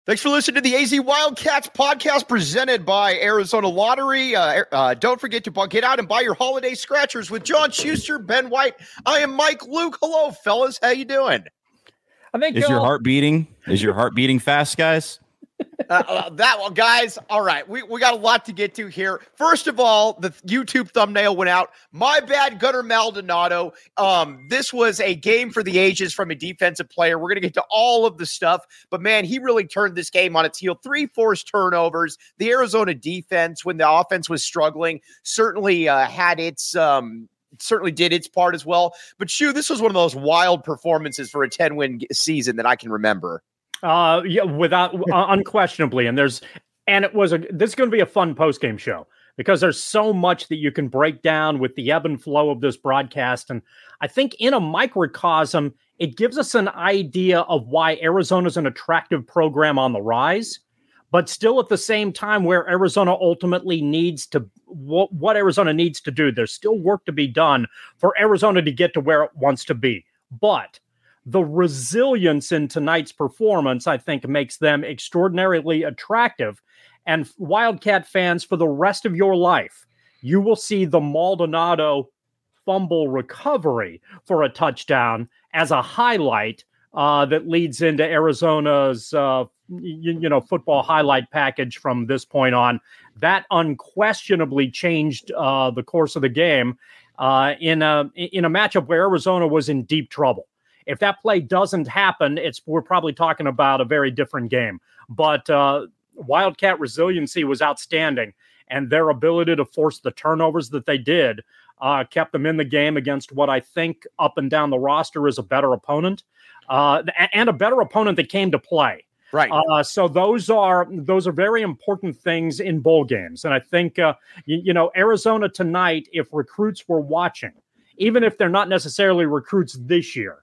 Thanks for listening to the AZ Wildcats podcast presented by Arizona Lottery. Don't forget to get out and buy your holiday scratchers with John Schuster, Ben White. I am Mike Luke. Hello, fellas. How you doing? I think your heart beating? Is your heart beating fast, guys? Guys, all right, we got a lot to get to here. First of all, the YouTube thumbnail went out. My bad, Gunnar Maldonado. This was a game for the ages from a defensive player. We're going to get to all of the stuff, but man, he really turned this game on its heel. 3 forced turnovers. The Arizona defense, when the offense was struggling, certainly had its certainly did its part as well. But this was one of those wild performances for a 10-win season that I can remember. Yeah, without unquestionably, this is going to be a fun post-game show because there's so much that you can break down with the ebb and flow of this broadcast, and I think in a microcosm, it gives us an idea of why Arizona's an attractive program on the rise, but still at the same time where Arizona ultimately needs to what Arizona needs to do. There's still work to be done for Arizona to get to where it wants to be, but the resilience in tonight's performance, I think, makes them extraordinarily attractive. And Wildcat fans, for the rest of your life, you will see the Maldonado fumble recovery for a touchdown as a highlight that leads into Arizona's football highlight package from this point on. That unquestionably changed the course of the game in a matchup where Arizona was in deep trouble. If that play doesn't happen, we're probably talking about a very different game. But Wildcat resiliency was outstanding, and their ability to force the turnovers that they did kept them in the game against what I think up and down the roster is a better opponent, and a better opponent that came to play. Right. So those are very important things in bowl games, and I think Arizona tonight, if recruits were watching, even if they're not necessarily recruits this year.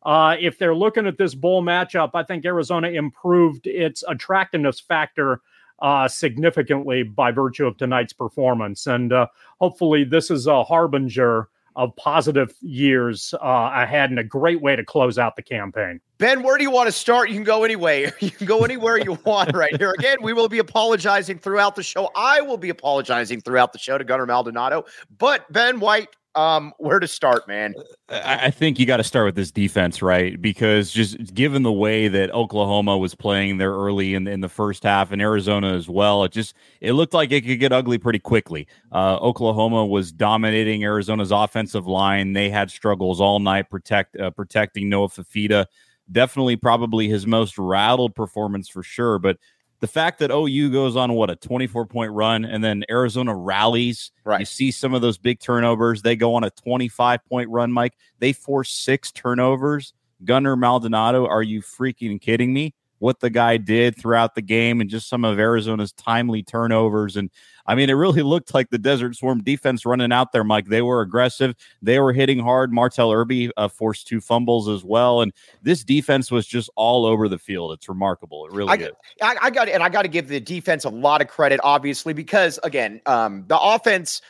If they're looking at this bowl matchup, I think Arizona improved its attractiveness factor significantly by virtue of tonight's performance. And hopefully this is a harbinger of positive years ahead and a great way to close out the campaign. Ben, where do you want to start? You can go anywhere. You can go anywhere you want right here. Again, we will be apologizing throughout the show. I will be apologizing throughout the show to Gunnar Maldonado. But Ben White, where to start, man? I think you got to start with this defense, right? Because just given the way that Oklahoma was playing there early in the first half, and Arizona as well, it looked like it could get ugly pretty quickly. Oklahoma was dominating Arizona's offensive line. They had struggles all night protecting Noah Fifita. Definitely probably his most rattled performance for sure, but the fact that OU goes on, a 24-point run, and then Arizona rallies. Right. You see some of those big turnovers. They go on a 25-point run, Mike. They force 6 turnovers. Gunnar Maldonado, are you freaking kidding me? What the guy did throughout the game and just some of Arizona's timely turnovers. And, I mean, it really looked like the Desert Swarm defense running out there, Mike. They were aggressive. They were hitting hard. Martell Irby forced 2 fumbles as well. And this defense was just all over the field. It's remarkable. It really is. I got to give the defense a lot of credit, obviously, because, again, the offense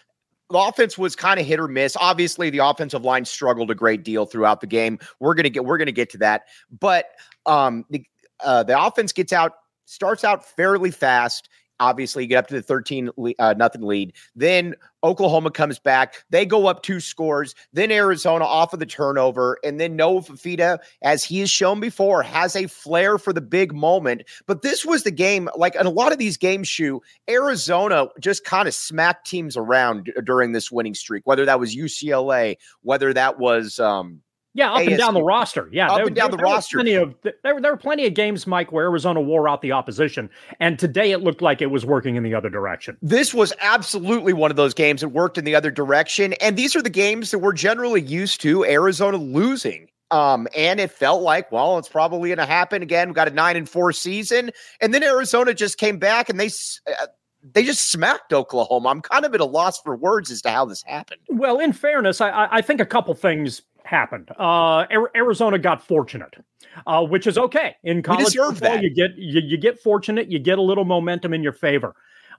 was kind of hit or miss. Obviously, the offensive line struggled a great deal throughout the game. We're gonna get to that. But the offense starts out fairly fast. Obviously, you get up to the 13-0 lead. Then Oklahoma comes back. They go up 2 scores. Then Arizona off of the turnover. And then Noah Fifita, as he has shown before, has a flair for the big moment. But this was the game, like in a lot of these games, Arizona just kind of smacked teams around during this winning streak, whether that was UCLA, whether that was up and down the roster. Yeah, up and down the roster. There were plenty of games, Mike, where Arizona wore out the opposition, and today it looked like it was working in the other direction. This was absolutely one of those games that worked in the other direction, and these are the games that we're generally used to Arizona losing. And it felt like, well, it's probably going to happen again. We got a 9-4 season, and then Arizona just came back and they just smacked Oklahoma. I'm kind of at a loss for words as to how this happened. Well, in fairness, I think a couple things happened. Arizona got fortunate, which is okay. In college football, you get fortunate, you get a little momentum in your favor.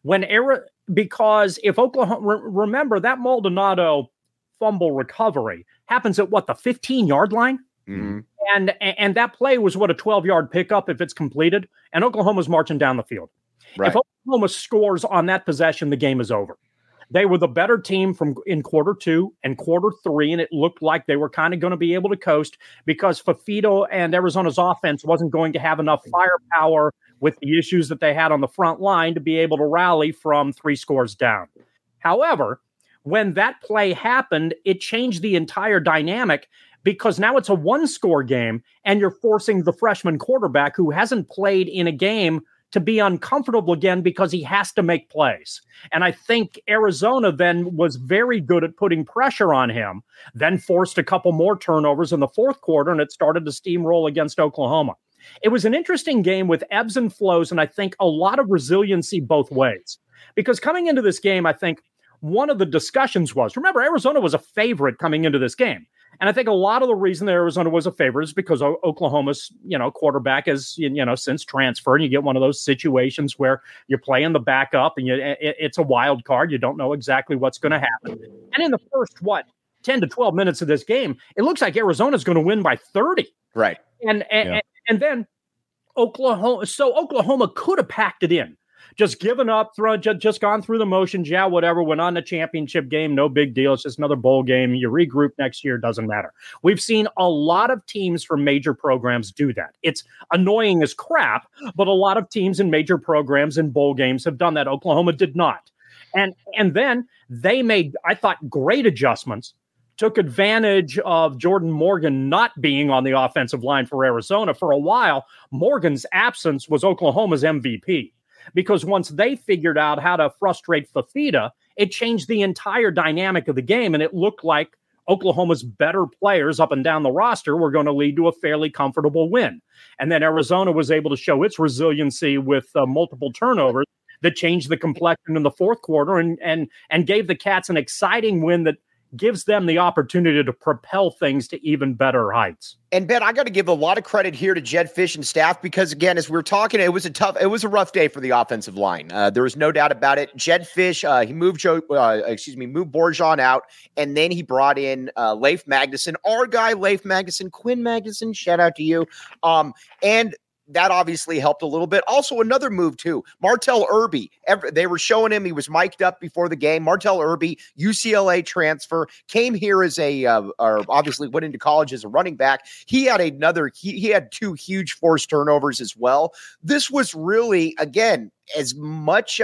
Because if Oklahoma, remember that Maldonado fumble recovery happens at the 15-yard line? Mm-hmm. And that play was what, a 12-yard pickup if it's completed, and Oklahoma's marching down the field. Right. If Oklahoma scores on that possession, the game is over. They were the better team in quarter 2 and quarter 3, and it looked like they were kind of going to be able to coast because Fifita and Arizona's offense wasn't going to have enough firepower with the issues that they had on the front line to be able to rally from 3 scores down. However, when that play happened, it changed the entire dynamic because now it's a 1-score game, and you're forcing the freshman quarterback who hasn't played in a game to be uncomfortable again because he has to make plays. And I think Arizona then was very good at putting pressure on him, then forced a couple more turnovers in the fourth quarter, and it started to steamroll against Oklahoma. It was an interesting game with ebbs and flows, and I think a lot of resiliency both ways. Because coming into this game, I think one of the discussions was, remember, Arizona was a favorite coming into this game. And I think a lot of the reason that Arizona was a favorite is because Oklahoma's, quarterback is, since transferred, and you get one of those situations where you're playing the backup and it's a wild card. You don't know exactly what's going to happen. And in the first, 10 to 12 minutes of this game, it looks like Arizona's going to win by 30. Right. And then Oklahoma could have packed it in. Just given up, just gone through the motions, whatever, went on the championship game, no big deal. It's just another bowl game. You regroup next year, doesn't matter. We've seen a lot of teams from major programs do that. It's annoying as crap, but a lot of teams in major programs and bowl games have done that. Oklahoma did not. And then they made, I thought, great adjustments, took advantage of Jordan Morgan not being on the offensive line for Arizona. For a while, Morgan's absence was Oklahoma's MVP. Because once they figured out how to frustrate Fifita, it changed the entire dynamic of the game, and it looked like Oklahoma's better players up and down the roster were going to lead to a fairly comfortable win. And then Arizona was able to show its resiliency with multiple turnovers that changed the complexion in the fourth quarter and gave the Cats an exciting win that gives them the opportunity to propel things to even better heights. And Ben, I got to give a lot of credit here to Jedd Fisch and staff because, again, as we were talking, it was a rough day for the offensive line. There was no doubt about it. Jedd Fisch, he moved Borjan out, and then he brought in Leif Magnuson, our guy Leif Magnuson, Quinn Magnuson. Shout out to you. And that obviously helped a little bit. Also, another move, too. Martell Irby. They were showing him. He was mic'd up before the game. Martell Irby, UCLA transfer, came here as obviously went into college as a running back. He had he had 2 huge forced turnovers as well. This was really, again, as much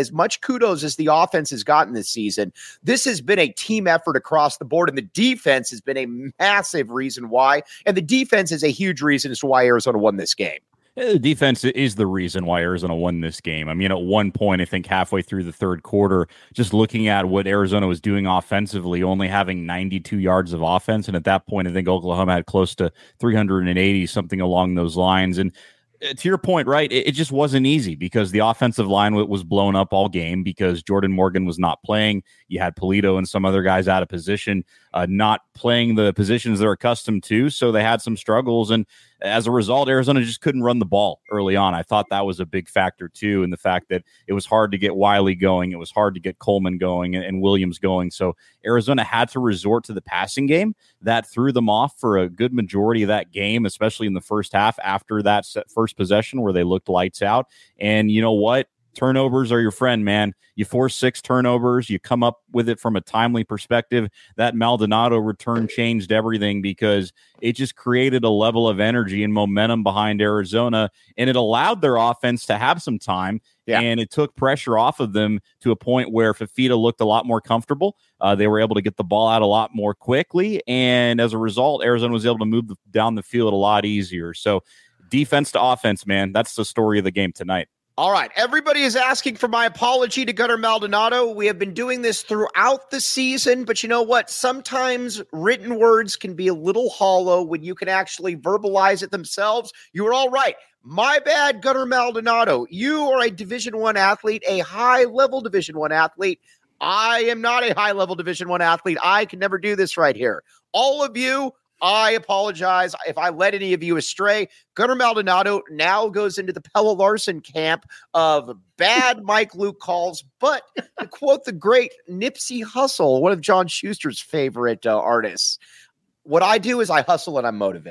kudos as the offense has gotten this season, this has been a team effort across the board, and the defense has been a massive reason why. And the defense is a huge reason as to why Arizona won this game. The defense is the reason why Arizona won this game. I mean, at one point, I think halfway through the third quarter, just looking at what Arizona was doing offensively, only having 92 yards of offense. And at that point, I think Oklahoma had close to 380, something along those lines. And to your point, right, it just wasn't easy because the offensive line was blown up all game because Jordan Morgan was not playing. You had Polito and some other guys out of position, not playing the positions they're accustomed to. So they had some struggles. And as a result, Arizona just couldn't run the ball early on. I thought that was a big factor, too, in the fact that it was hard to get Wiley going. It was hard to get Coleman going and Williams going. So Arizona had to resort to the passing game. That threw them off for a good majority of that game, especially in the first half after that first possession where they looked lights out. And you know what? Turnovers are your friend, man. You force 6 turnovers. You come up with it from a timely perspective. That Maldonado return changed everything because it just created a level of energy and momentum behind Arizona, and it allowed their offense to have some time, and it took pressure off of them to a point where Fifita looked a lot more comfortable. They were able to get the ball out a lot more quickly, and as a result, Arizona was able to move down the field a lot easier. So defense to offense, man, that's the story of the game tonight. All right. Everybody is asking for my apology to Gunnar Maldonado. We have been doing this throughout the season, but you know what? Sometimes written words can be a little hollow when you can actually verbalize it themselves. You were all right. My bad, Gunnar Maldonado. You are a Division I athlete, a high-level Division I athlete. I am not a high-level Division I athlete. I can never do this right here. All of you, I apologize if I led any of you astray. Gunnar Maldonado now goes into the Pella Larson camp of bad Mike Luke calls. But to quote the great Nipsey Hussle, one of John Schuster's favorite artists, what I do is I hustle and I motivate.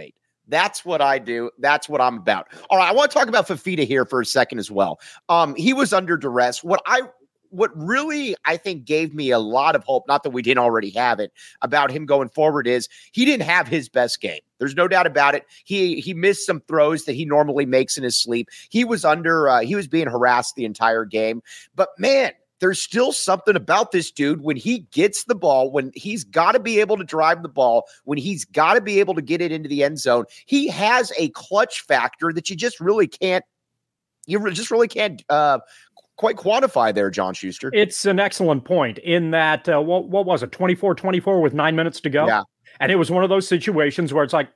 That's what I do. That's what I'm about. All right, I want to talk about Fifita here for a second as well. He was under duress. What really, I think, gave me a lot of hope, not that we didn't already have it, about him going forward is he didn't have his best game. There's no doubt about it. He missed some throws that he normally makes in his sleep. He was being harassed the entire game. But man, there's still something about this dude when he gets the ball, when he's got to be able to drive the ball, when he's got to be able to get it into the end zone. He has a clutch factor that you just really can't quite quantify there, John Schuster. It's an excellent point in that, what was it, 24-24 with 9 minutes to go? Yeah. And it was one of those situations where it's like,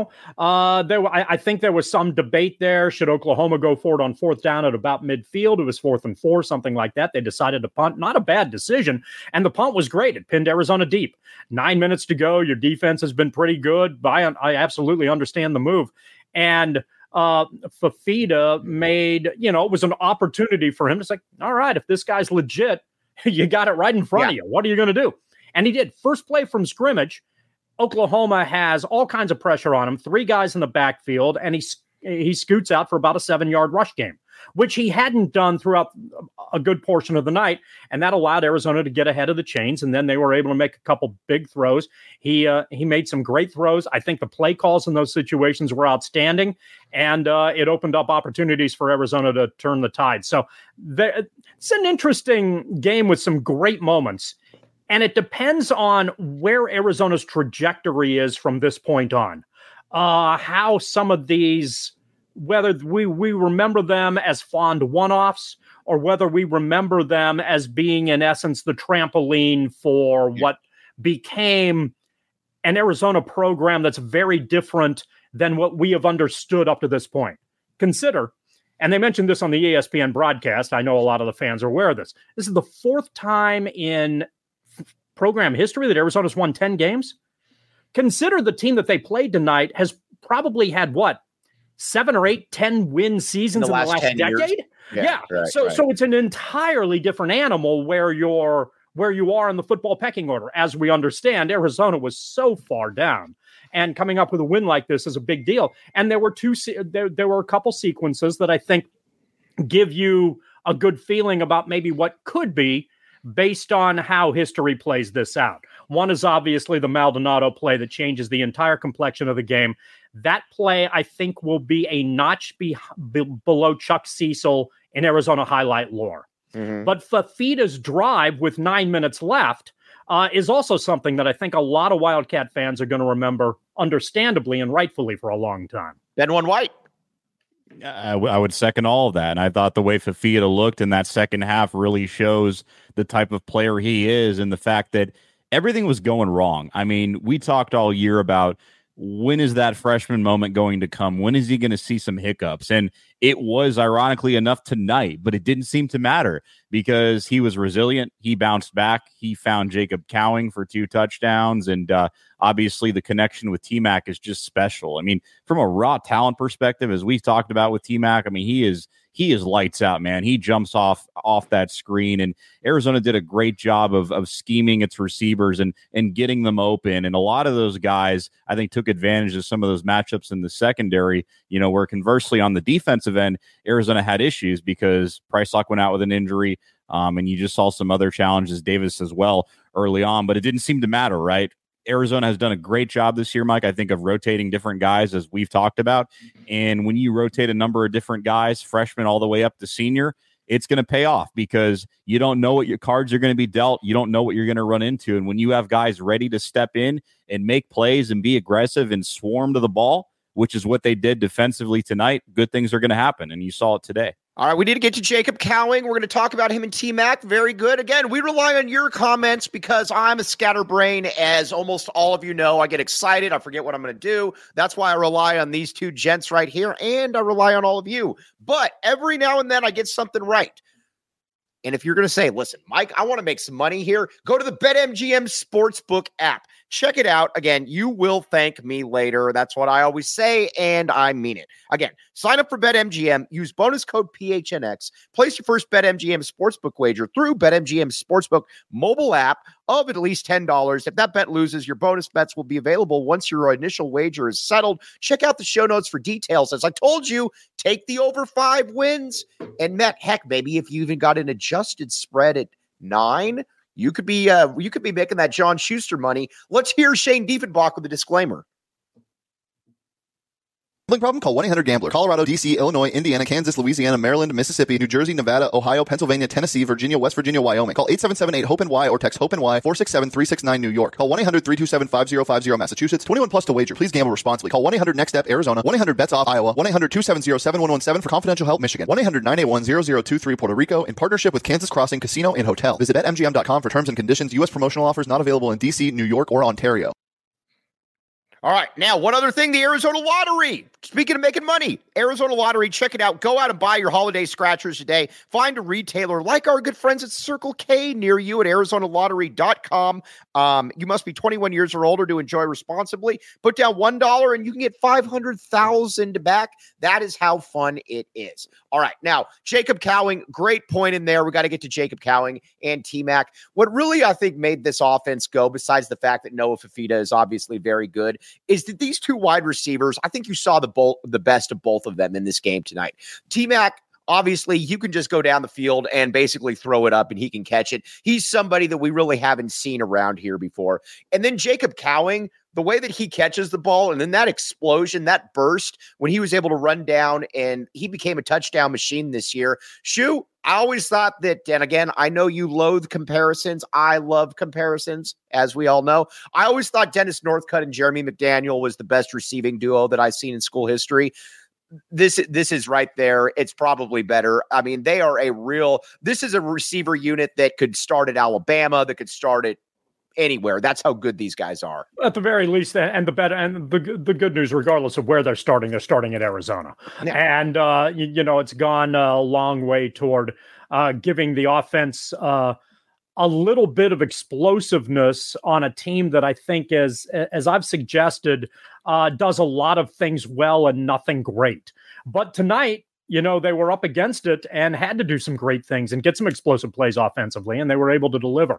I think there was some debate there. Should Oklahoma go forward on fourth down at about midfield? It was 4th and 4, something like that. They decided to punt. Not a bad decision. And the punt was great. It pinned Arizona deep. 9 minutes to go. Your defense has been pretty good. I absolutely understand the move. And Fifita made, it was an opportunity for him. It's like, all right, if this guy's legit, you got it right in front of you. What are you going to do? And he did. First play from scrimmage, Oklahoma has all kinds of pressure on him, 3 guys in the backfield, and he scoots out for about a 7-yard rush game, which he hadn't done throughout a good portion of the night, and that allowed Arizona to get ahead of the chains, and then they were able to make a couple big throws. He made some great throws. I think the play calls in those situations were outstanding, and it opened up opportunities for Arizona to turn the tide. So it's an interesting game with some great moments. And it depends on where Arizona's trajectory is from this point on. How some of these, whether we remember them as fond one-offs or whether we remember them as being, in essence, the trampoline for what became an Arizona program that's very different than what we have understood up to this point. Consider, and they mentioned this on the ESPN broadcast, I know a lot of the fans are aware of this. This is the 4th time in program history that Arizona's won 10 games. Consider the team that they played tonight has probably had 7 or 8, 10 win seasons in the last decade. Yeah. Right, so it's an entirely different animal where you are in the football pecking order. As we understand, Arizona was so far down, and coming up with a win like this is a big deal. And there were a couple sequences that I think give you a good feeling about maybe what could be, based on how history plays this out. One is obviously the Maldonado play that changes the entire complexion of the game. That play, I think, will be a notch below Chuck Cecil in Arizona highlight lore. Mm-hmm. But Fifita's drive with 9 minutes left is also something that I think a lot of Wildcat fans are going to remember, understandably and rightfully, for a long time. Ben One White. I would second all of that. And I thought the way Fifita looked in that second half really shows the type of player he is, and the fact that everything was going wrong. I mean, we talked all year about when is that freshman moment going to come? When is he going to see some hiccups? And it was, ironically enough, tonight, but it didn't seem to matter because he was resilient. He bounced back. He found Jacob Cowing for 2 touchdowns. And obviously the connection with T-Mac is just special. I mean, from a raw talent perspective, as we talked about with T-Mac, I mean, he is lights out, man. He jumps off that screen, and Arizona did a great job of scheming its receivers and getting them open. And a lot of those guys, I think, took advantage of some of those matchups in the secondary, where conversely on the defensive end, Arizona had issues because Price Lock went out with an injury. And you just saw some other challenges, Davis as well, early on, but it didn't seem to matter, right? Arizona has done a great job this year, Mike, I think, of rotating different guys, as we've talked about. And when you rotate a number of different guys, freshman all the way up to senior, it's going to pay off because you don't know what your cards are going to be dealt. You don't know what you're going to run into. And when you have guys ready to step in and make plays and be aggressive and swarm to the ball, which is what they did defensively tonight, good things are going to happen. And you saw it today. All right, we need to get to Jacob Cowing. We're going to talk about him and T-Mac. Very good. Again, we rely on your comments because I'm a scatterbrain, as almost all of you know. I get excited. I forget what I'm going to do. That's why I rely on these 2 gents right here, and I rely on all of you. But every now and then I get something right. And if you're going to say, listen, Mike, I want to make some money here, go to the BetMGM Sportsbook app. Check it out. Again, you will thank me later. That's what I always say, and I mean it. Again, sign up for BetMGM. Use bonus code PHNX. Place your first BetMGM sportsbook wager through BetMGM Sportsbook mobile app of at least $10. If that bet loses, your bonus bets will be available once your initial wager is settled. Check out the show notes for details. As I told you, take the over 5 wins. And Matt, heck, maybe if you even got an adjusted spread at 9, you could be making that John Schuster money. Let's hear Shane Diefenbach with a disclaimer. Problem? Call 1-800-GAMBLER. Colorado, D.C., Illinois, Indiana, Kansas, Louisiana, Maryland, Mississippi, New Jersey, Nevada, Ohio, Pennsylvania, Tennessee, Virginia, West Virginia, Wyoming. Call 877-8-HOPE-NY or text HOPE-NY 467-369 New York. Call 1-800-327-5050 Massachusetts. 21 plus to wager. Please gamble responsibly. Call 1-800-NEXT-STEP Arizona. 1-800-BETS-OFF Iowa. 1-800-270-7117 for confidential help Michigan. 1-800-981-0023 Puerto Rico in partnership with Kansas Crossing Casino and Hotel. Visit BetMGM.com for terms and conditions. U.S. promotional offers not available in D.C., New York, or Ontario. All right. Now, one other thing, the Arizona Lottery. Speaking of making money, Arizona Lottery, check it out. Go out and buy your holiday scratchers today. Find a retailer like our good friends at Circle K near you at ArizonaLottery.com. You must be 21 years or older to enjoy responsibly. Put down $1 and you can get $500,000 back. That is how fun it is. All right. Now, Jacob Cowing, great point in there. We got to get to Jacob Cowing and T-Mac. What really, I think, made this offense go, besides the fact that Noah Fifita is obviously very good, is that these two wide receivers, I think you saw the best of both of them in this game tonight. T-Mac, obviously, you can just go down the field and basically throw it up and he can catch it. He's somebody that we really haven't seen around here before. And then Jacob Cowing, the way that he catches the ball and then that explosion, that burst when he was able to run down and he became a touchdown machine this year. Shu, I always thought that, and again, I know you loathe comparisons. I love comparisons, as we all know. I always thought Dennis Northcutt and Jeremy McDaniel was the best receiving duo that I've seen in school history. This is right there. It's probably better. I mean, this is a receiver unit that could start at Alabama, that could start at anywhere. That's how good these guys are. At the very least, and the better, and the good news, regardless of where they're starting at Arizona. Yeah. And, it's gone a long way toward giving the offense a little bit of explosiveness on a team that I think, as I've suggested, does a lot of things well and nothing great. But tonight, they were up against it and had to do some great things and get some explosive plays offensively, and they were able to deliver.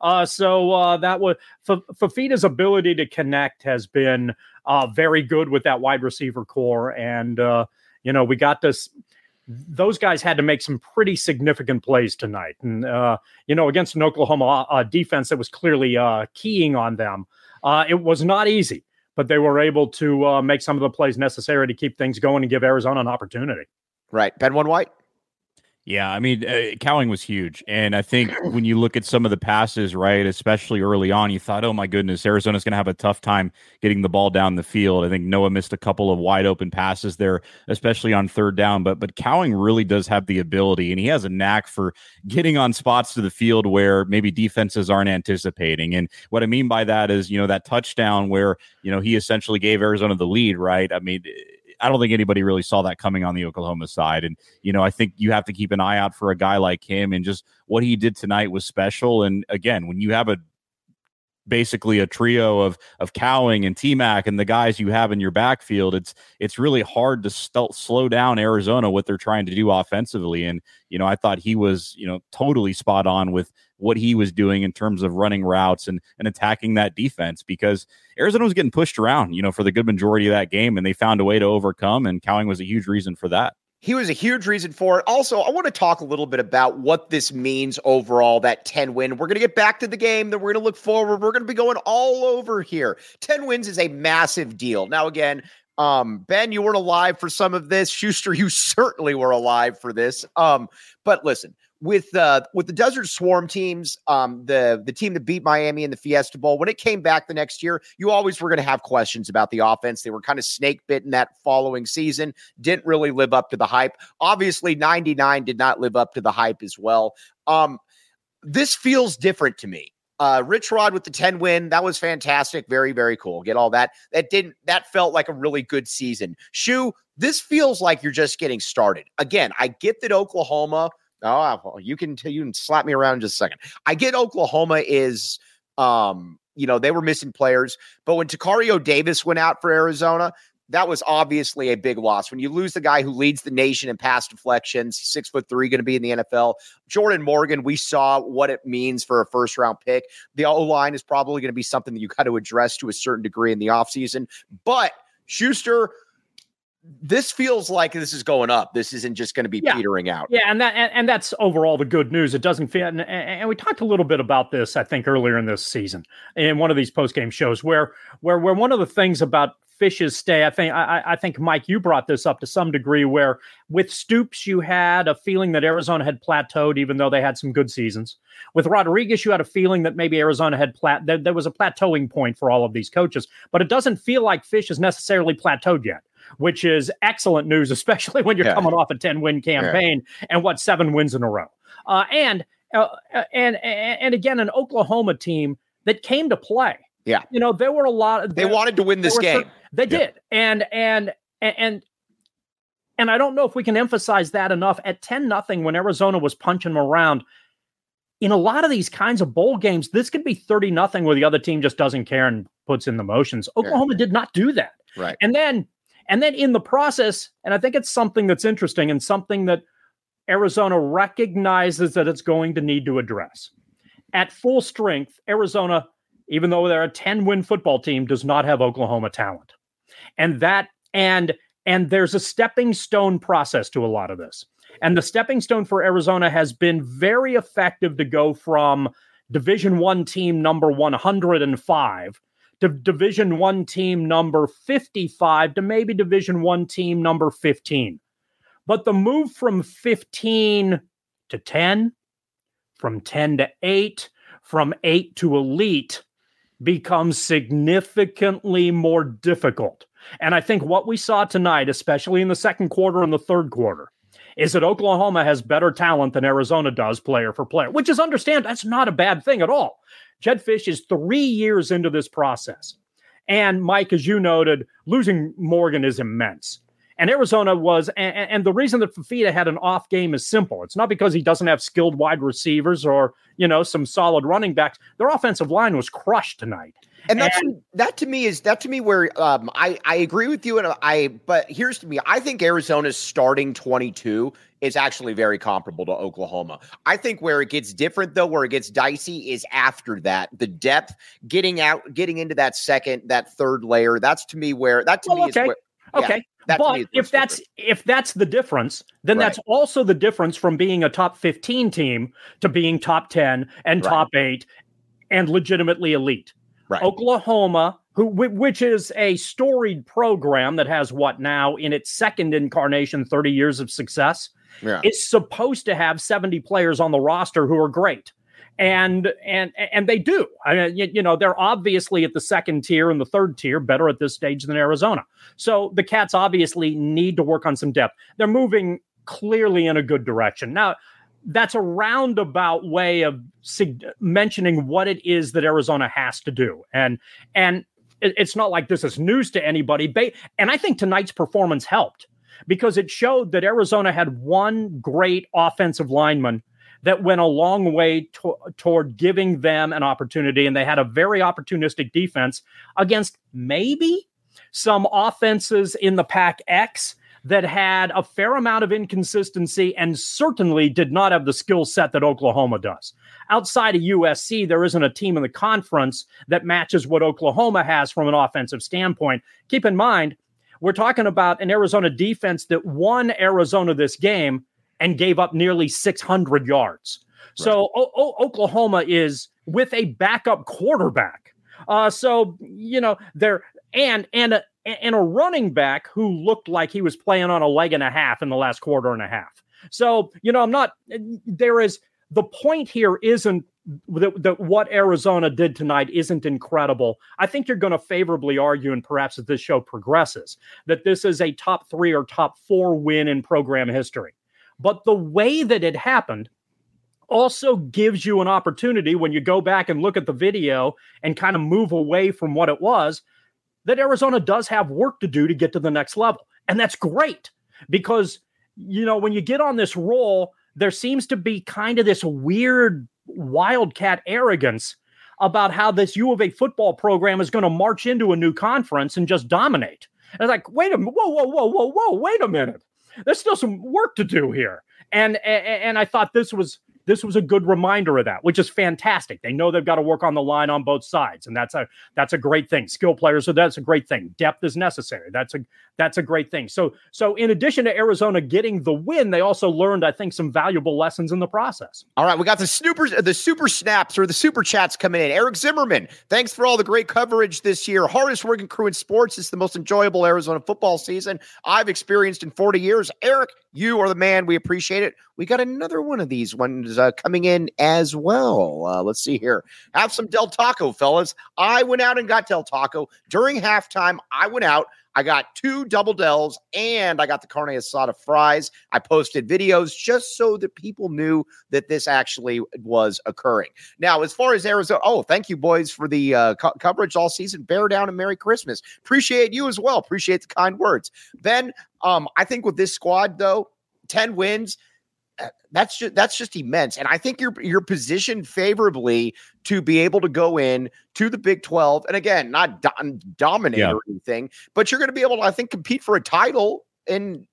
So that was Fifita's ability to connect has been very good with that wide receiver core. And, we got this. Those guys had to make some pretty significant plays tonight. And, against an Oklahoma defense that was clearly keying on them, it was not easy, but they were able to make some of the plays necessary to keep things going and give Arizona an opportunity. Right. Ben One White. Yeah, I mean, Cowing was huge. And I think when you look at some of the passes, right, especially early on, you thought, oh, my goodness, Arizona's going to have a tough time getting the ball down the field. I think Noah missed a couple of wide open passes there, especially on third down. But Cowing really does have the ability, and he has a knack for getting on spots to the field where maybe defenses aren't anticipating. And what I mean by that is, that touchdown where, he essentially gave Arizona the lead, right? I mean, I don't think anybody really saw that coming on the Oklahoma side. And, I think you have to keep an eye out for a guy like him, and just what he did tonight was special. And again, when you have basically a trio of Cowing and T-Mac and the guys you have in your backfield, it's really hard to slow down Arizona, what they're trying to do offensively. And, I thought he was, totally spot on with what he was doing in terms of running routes and attacking that defense, because Arizona was getting pushed around, for the good majority of that game, and they found a way to overcome, and Cowing was a huge reason for that. He was a huge reason for it. Also, I want to talk a little bit about what this means overall, that 10 win. We're going to get back to the game, then we're going to look forward. We're going to be going all over here. 10 wins is a massive deal. Now, again, Ben, you weren't alive for some of this. Schuster, you certainly were alive for this. But listen, with the Desert Swarm teams, the team that beat Miami in the Fiesta Bowl, when it came back the next year, you always were going to have questions about the offense. They were kind of snake bitten that following season, didn't really live up to the hype. Obviously, 99 did not live up to the hype as well. This feels different to me. Rich Rod with the 10 win, that was fantastic. Very, very cool. Get all that. That felt like a really good season. Shu, this feels like you're just getting started. Again, I get that Oklahoma. You can slap me around in just a second. I get Oklahoma is they were missing players. But when Takario Davis went out for Arizona, that was obviously a big loss. When you lose the guy who leads the nation in pass deflections, 6'3", going to be in the NFL. Jordan Morgan, we saw what it means for a first-round pick. The O-line is probably going to be something that you got to address to a certain degree in the offseason. But Schuster, this feels like this is going up. This isn't just going to be petering out. Yeah, and that's overall the good news. It doesn't feel, and we talked a little bit about this, I think, earlier in this season in one of these post-game shows where one of the things about Fish's stay, I think, Mike, you brought this up to some degree, where with Stoops, you had a feeling that Arizona had plateaued, even though they had some good seasons. With Rodriguez, you had a feeling that maybe Arizona had there was a plateauing point for all of these coaches, but it doesn't feel like Fish has necessarily plateaued yet, which is excellent news, especially when you're coming off a 10-win campaign and 7 wins in a row. And again, an Oklahoma team that came to play. Yeah. There were a lot. They wanted to win this game. They did. And I don't know if we can emphasize that enough. At 10-0, when Arizona was punching them around, in a lot of these kinds of bowl games, this could be 30-0 where the other team just doesn't care and puts in the motions. Oklahoma did not do that. Right. And then in the process, and I think it's something that's interesting and something that Arizona recognizes that it's going to need to address. At full strength, Arizona, even though they're a 10-win football team, does not have Oklahoma talent. And there's a stepping stone process to a lot of this. And the stepping stone for Arizona has been very effective to go from Division I team number 105 to Division I team number 55 to maybe Division I team number 15. But the move from 15 to 10, from 10 to 8, from 8 to elite becomes significantly more difficult. And I think what we saw tonight, especially in the second quarter and the third quarter, is that Oklahoma has better talent than Arizona does player for player, which is that's not a bad thing at all. Jedd Fisch is 3 years into this process. And Mike, as you noted, losing Morgan is immense. And Arizona was, and the reason that Fifita had an off game is simple. It's not because he doesn't have skilled wide receivers or, some solid running backs. Their offensive line was crushed tonight. And that to me where I agree with you. But here's to me, I think Arizona's starting 22 is actually very comparable to Oklahoma. I think where it gets different though, where it gets dicey is after that, the depth, getting into that third layer. That's to me where is where, okay. But if that's the difference, then that's also the difference from being a top 15 team to being top 10 and top 8 and legitimately elite. Right. Oklahoma, which is a storied program that has now in its second incarnation, 30 years of success, is supposed to have 70 players on the roster who are great. And they do. I mean, they're obviously at the second tier and the third tier better at this stage than Arizona. So the Cats obviously need to work on some depth. They're moving clearly in a good direction. Now, that's a roundabout way of mentioning what it is that Arizona has to do. And it's not like this is news to anybody. And I think tonight's performance helped because it showed that Arizona had one great offensive lineman that went a long way toward giving them an opportunity. And they had a very opportunistic defense against maybe some offenses in the Pac-X that had a fair amount of inconsistency and certainly did not have the skill set that Oklahoma does. Outside of USC, there isn't a team in the conference that matches what Oklahoma has from an offensive standpoint. Keep in mind, we're talking about an Arizona defense that won Arizona this game and gave up nearly 600 yards. Right. So Oklahoma is with a backup quarterback. They're and a running back who looked like he was playing on a leg and a half in the last quarter and a half. So, the point here isn't that what Arizona did tonight isn't incredible. I think you're going to favorably argue, and perhaps as this show progresses, that this is a top 3 or top 4 win in program history. But the way that it happened also gives you an opportunity when you go back and look at the video and kind of move away from what it was, that Arizona does have work to do to get to the next level. And that's great because, when you get on this roll, there seems to be kind of this weird wildcat arrogance about how this U of A football program is going to march into a new conference and just dominate. And it's like, wait a minute, whoa, wait a minute. There's still some work to do here. And I thought this was a good reminder of that, which is fantastic. They know they've got to work on the line on both sides, and that's a great thing. Skill players, so that's a great thing. Depth is necessary. That's a great thing. So in addition to Arizona getting the win, they also learned, I think, some valuable lessons in the process. All right, we got the super snaps or the super chats coming in. Eric Zimmerman, thanks for all the great coverage this year. Hardest working crew in sports. It's the most enjoyable Arizona football season I've experienced in 40 years. Eric, you are the man. We appreciate it. We got another one of these ones coming in as well. Let's see here. Have some Del Taco, fellas. I went out and got Del Taco. During halftime, I went out. I got 2 double Dells, and I got the carne asada fries. I posted videos just so that people knew that this actually was occurring. Now, as far as Arizona, thank you, boys, for the coverage all season. Bear down and Merry Christmas. Appreciate you as well. Appreciate the kind words. Ben, I think with this squad, though, 10 wins, that's just immense. And I think you're positioned favorably to be able to go in to the Big 12. And again, not dominate or anything, but you're going to be able to, I think, compete for a title. And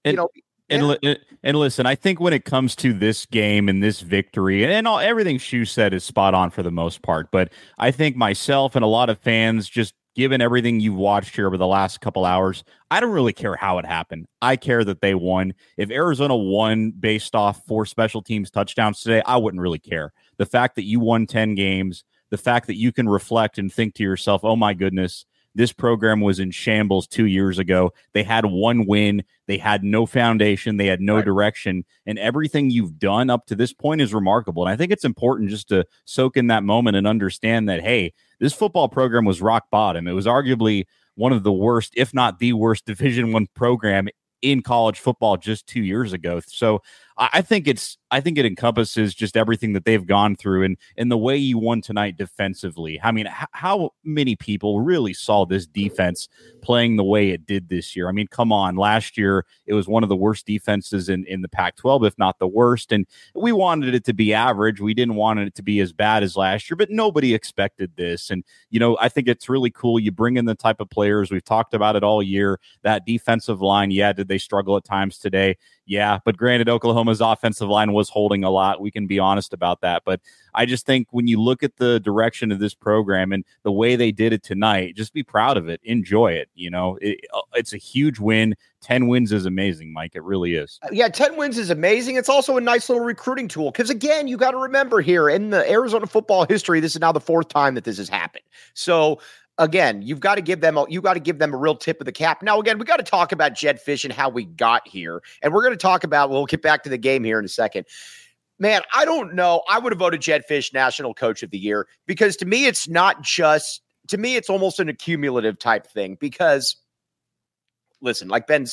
listen, I think when it comes to this game and this victory and everything Shu said is spot on for the most part. But I think myself and a lot of fans, just given everything you've watched here over the last couple hours, I don't really care how it happened. I care that they won. If Arizona won based off 4 special teams touchdowns today, I wouldn't really care. The fact that you won 10 games, the fact that you can reflect and think to yourself, oh my goodness, this program was in shambles 2 years ago. They had 1 win. They had no foundation. They had no direction. And everything you've done up to this point is remarkable. And I think it's important just to soak in that moment and understand that, hey, this football program was rock bottom. It was arguably one of the worst, if not the worst, Division I program in college football just 2 years ago. So I think it encompasses just everything that they've gone through and the way you won tonight defensively. I mean, how many people really saw this defense playing the way it did this year? I mean, come on. Last year, it was one of the worst defenses in the Pac-12, if not the worst. And we wanted it to be average. We didn't want it to be as bad as last year, but nobody expected this. And, I think it's really cool. You bring in the type of players. We've talked about it all year. That defensive line, did they struggle at times today? Yeah, but granted, Oklahoma's offensive line was holding a lot. We can be honest about that. But I just think when you look at the direction of this program and the way they did it tonight, just be proud of it. Enjoy it. It's a huge win. 10 wins is amazing, Mike. It really is. 10 wins is amazing. It's also a nice little recruiting tool because, again, you got to remember here in the Arizona football history, this is now the 4th time that this has happened. So, again, you've got to give them a real tip of the cap. Now, again, we got to talk about Jedd Fisch and how we got here. And we're going to talk about, we'll get back to the game here in a second. Man, I don't know. I would have voted Jedd Fisch National Coach of the Year because to me, it's it's almost an accumulative type thing because listen, like Ben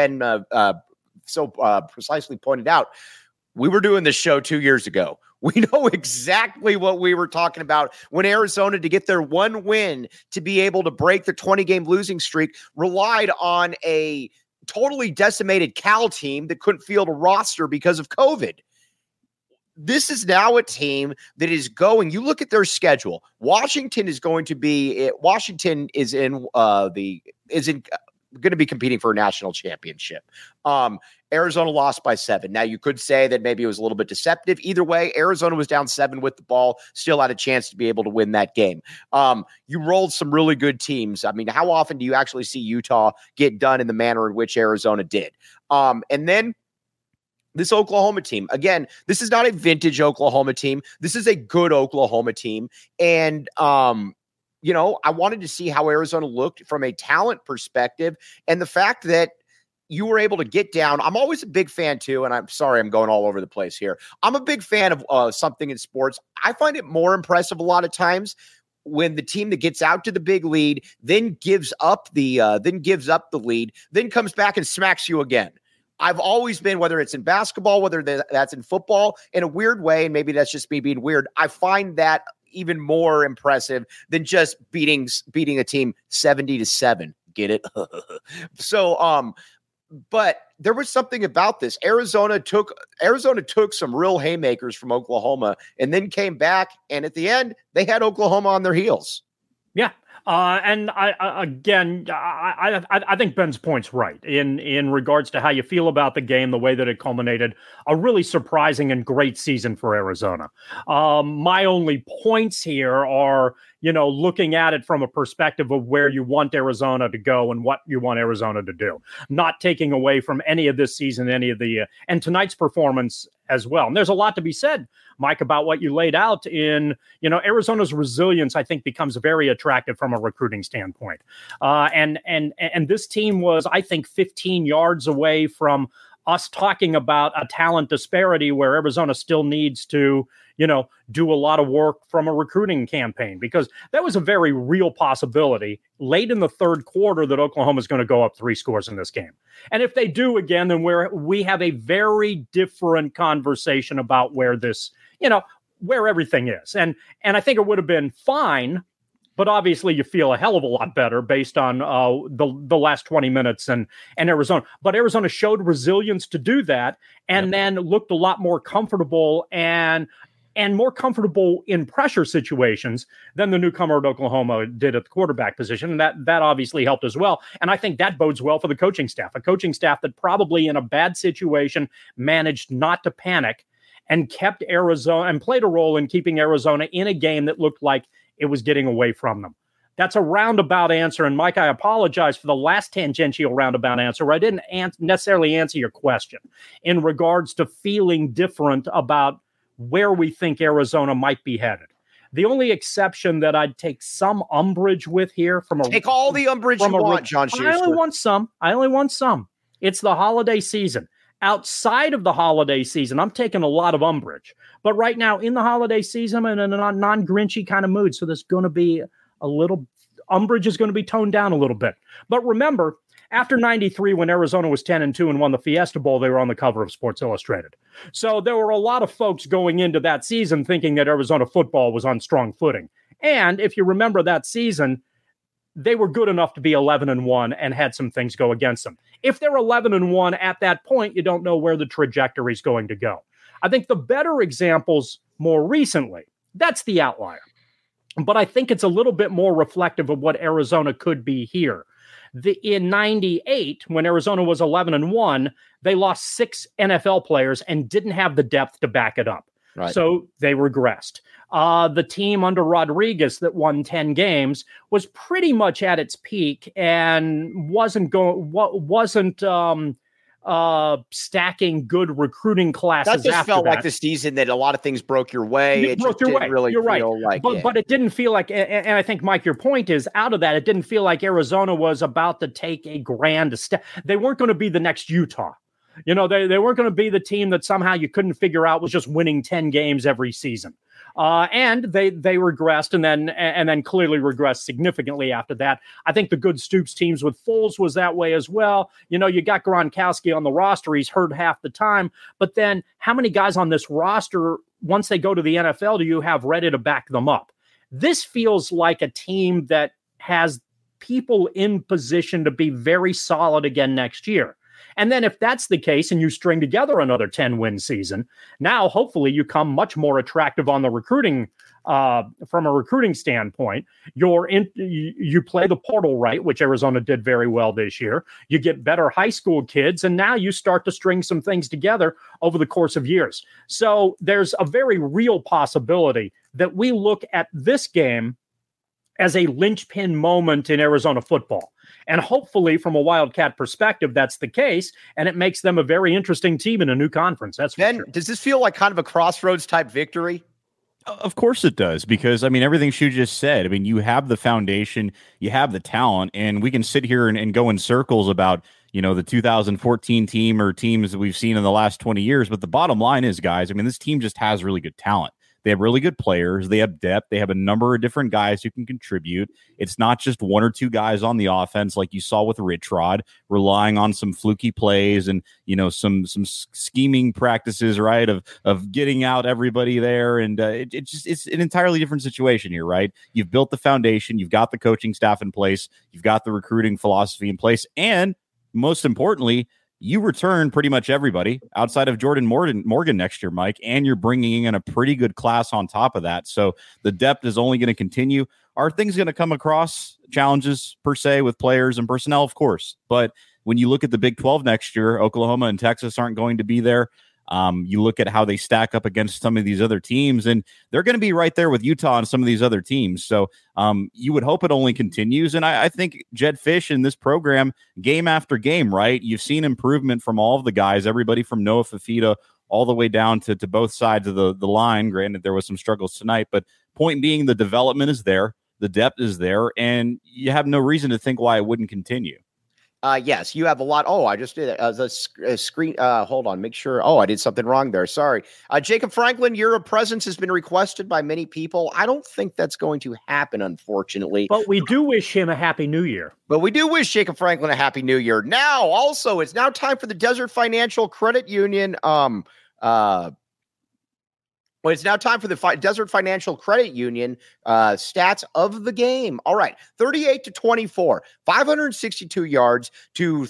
so precisely pointed out, we were doing this show 2 years ago. We know exactly what we were talking about when Arizona, to get their 1 win, to be able to break the 20-game losing streak, relied on a totally decimated Cal team that couldn't field a roster because of COVID. This is now a team that is going. You look at their schedule. Washington is going to be. Washington is going to be competing for a national championship. Arizona lost by 7. Now, you could say that maybe it was a little bit deceptive. Either way, Arizona was down 7 with the ball, still had a chance to be able to win that game. You rolled some really good teams. I mean, how often do you actually see Utah get done in the manner in which Arizona did? And then this Oklahoma team, again, this is not a vintage Oklahoma team. This is a good Oklahoma team. And, I wanted to see how Arizona looked from a talent perspective. And the fact that you were able to get down. I'm always a big fan too, and I'm sorry I'm going all over the place here. I'm a big fan of something in sports. I find it more impressive a lot of times when the team that gets out to the big lead then gives up the lead, then comes back and smacks you again. I've always been, whether it's in basketball, whether that's in football, in a weird way, and maybe that's just me being weird, I find that even more impressive than just beating a team 70-7. Get it? So, But there was something about this. Arizona took some real haymakers from Oklahoma and then came back. And at the end, they had Oklahoma on their heels. Yeah. And I think Ben's point's right in regards to how you feel about the game, the way that it culminated, a really surprising and great season for Arizona. My only points here are, looking at it from a perspective of where you want Arizona to go and what you want Arizona to do, not taking away from any of this season, and tonight's performance as well. And there's a lot to be said, Mike, about what you laid out in, Arizona's resilience, I think, becomes very attractive from a recruiting standpoint. And this team was, I think, 15 yards away from us talking about a talent disparity where Arizona still needs to, do a lot of work from a recruiting campaign, because that was a very real possibility late in the third quarter that Oklahoma is going to go up 3 scores in this game. And if they do again, then we have a very different conversation about where this, where everything is. And I think it would have been fine, but obviously you feel a hell of a lot better based on the last 20 minutes and Arizona. But Arizona showed resilience to do that, and then looked a lot more comfortable and more comfortable in pressure situations than the newcomer at Oklahoma did at the quarterback position. And that obviously helped as well. And I think that bodes well for the coaching staff, a coaching staff that probably in a bad situation managed not to panic and kept Arizona and played a role in keeping Arizona in a game that looked like it was getting away from them. That's a roundabout answer. And Mike, I apologize for the last tangential roundabout answer where I didn't necessarily answer your question in regards to feeling different about where we think Arizona might be headed. The only exception that I'd take some umbrage with here take all the umbrage you want, John Schuster. I only want some. It's the holiday season. Outside of the holiday season, I'm taking a lot of umbrage. But right now, in the holiday season, I'm in a non-Grinchy kind of mood. So there's going to be a little umbrage is going to be toned down a little bit. But remember, after 93, when Arizona was 10-2 and won the Fiesta Bowl, they were on the cover of Sports Illustrated. So there were a lot of folks going into that season thinking that Arizona football was on strong footing. And if you remember that season, they were good enough to be 11-1 and had some things go against them. If they're 11-1 at that point, you don't know where the trajectory is going to go. I think the better examples more recently, that's the outlier. But I think it's a little bit more reflective of what Arizona could be here. In 98, when Arizona was 11-1, they lost 6 NFL players and didn't have the depth to back it up. Right. So they regressed. The team under Rodriguez that won 10 games was pretty much at its peak and wasn't stacking good recruiting classes. That just felt like the season that a lot of things broke your way. It just didn't really feel like it. But it didn't feel like, and I think, Mike, your point is out of that, it didn't feel like Arizona was about to take a grand step. They weren't going to be the next Utah. They weren't going to be the team that somehow you couldn't figure out was just winning 10 games every season. And they regressed and then clearly regressed significantly after that. I think the good Stoops teams with Foles was that way as well. You got Gronkowski on the roster. He's hurt half the time. But then how many guys on this roster, once they go to the NFL, do you have ready to back them up? This feels like a team that has people in position to be very solid again next year. And then if that's the case and you string together another 10-win season, now hopefully you come much more attractive on the recruiting, from a recruiting standpoint. You play the portal right, which Arizona did very well this year. You get better high school kids, and now you start to string some things together over the course of years. So there's a very real possibility that we look at this game as a linchpin moment in Arizona football. And hopefully, from a Wildcat perspective, that's the case, and it makes them a very interesting team in a new conference. That's for sure. Does this feel like kind of a crossroads type victory? Of course it does, because, everything Shu just said, you have the foundation, you have the talent, and we can sit here and go in circles about, the 2014 team or teams that we've seen in the last 20 years. But the bottom line is, guys, this team just has really good talent. They have really good players. They have depth. They have a number of different guys who can contribute. It's not just one or two guys on the offense like you saw with Rich Rod, relying on some fluky plays and, some scheming practices, right, of getting out everybody there. And it's an entirely different situation here, right? You've built the foundation. You've got the coaching staff in place. You've got the recruiting philosophy in place. And most importantly, you return pretty much everybody outside of Jordan Morgan next year, Mike, and you're bringing in a pretty good class on top of that. So the depth is only going to continue. Are things going to come across challenges per se with players and personnel? Of course. But when you look at the Big 12 next year, Oklahoma and Texas aren't going to be there. You look at how they stack up against some of these other teams, and they're going to be right there with Utah and some of these other teams. So you would hope it only continues. And I think Jedd Fisch in this program, game after game, right, you've seen improvement from all of the guys, everybody from Noah Fifita all the way down to both sides of the line. Granted, there was some struggles tonight, but point being, the development is there, the depth is there, and you have no reason to think why it wouldn't continue. Yes, you have a lot. Oh, I just did a screen. Hold on, make sure. Oh, I did something wrong there. Sorry. Jacob Franklin, your presence has been requested by many people. I don't think that's going to happen, unfortunately. But we do wish him a happy new year. But we do wish Jacob Franklin a happy new year. Now, also, it's now time for the Desert Financial Credit Union. Well, it's now time for the Desert Financial Credit Union stats of the game. All right, 38-24, 562 yards to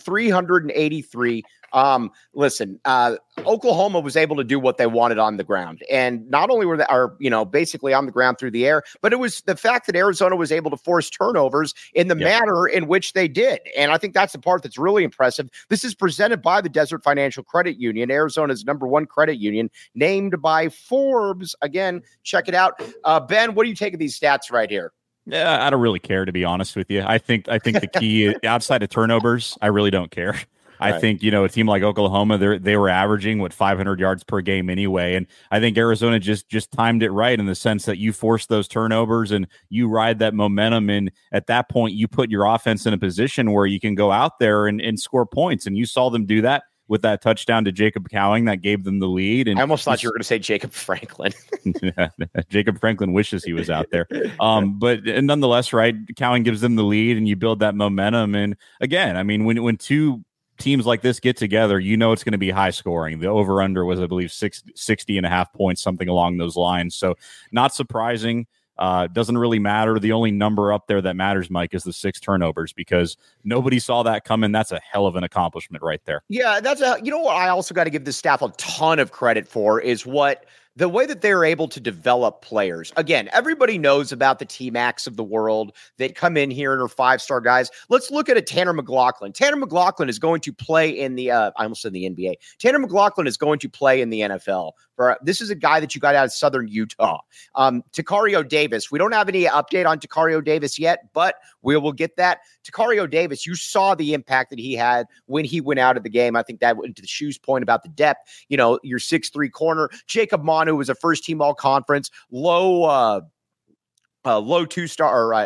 383. Listen, Oklahoma was able to do what they wanted on the ground, and not only were they basically on the ground through the air, but it was the fact that Arizona was able to force turnovers in the manner in which they did. And I think that's the part that's really impressive. This is presented by the Desert Financial Credit Union, Arizona's #1 credit union, named by Forbes. Again, check it out. Ben, what do you take of these stats right here? Yeah, I don't really care, to be honest with you. I think the key outside of turnovers, I really don't care. I think, a team like Oklahoma, they were averaging 500 yards per game anyway. And I think Arizona just timed it right in the sense that you force those turnovers and you ride that momentum. And at that point, you put your offense in a position where you can go out there and score points. And you saw them do that with that touchdown to Jacob Cowing that gave them the lead. And I almost thought you were going to say Jacob Franklin. Jacob Franklin wishes he was out there. But nonetheless, right, Cowing gives them the lead and you build that momentum. And again, I mean, when two teams like this get together, it's going to be high scoring. The over-under was, I believe, 60.5 points, something along those lines. So not surprising. Doesn't really matter. The only number up there that matters, Mike, is the 6 turnovers, because nobody saw that coming. That's a hell of an accomplishment right there. Yeah, what I also got to give this staff a ton of credit for is the way that they're able to develop players. Again, everybody knows about the T-Macs of the world that come in here and are 5-star guys. Let's look at a Tanner McLaughlin. Tanner McLaughlin is going to play in the, I almost said the NBA. Tanner McLaughlin is going to play in the NFL. This is a guy that you got out of Southern Utah. Tacario Davis. We don't have any update on Tacario Davis yet, but we will get that. Tacario Davis, you saw the impact that he had when he went out of the game. I think that went to the Shoe's point about the depth. Your 6'3" corner. Jacob Manu was a first-team all-conference, low 3-star,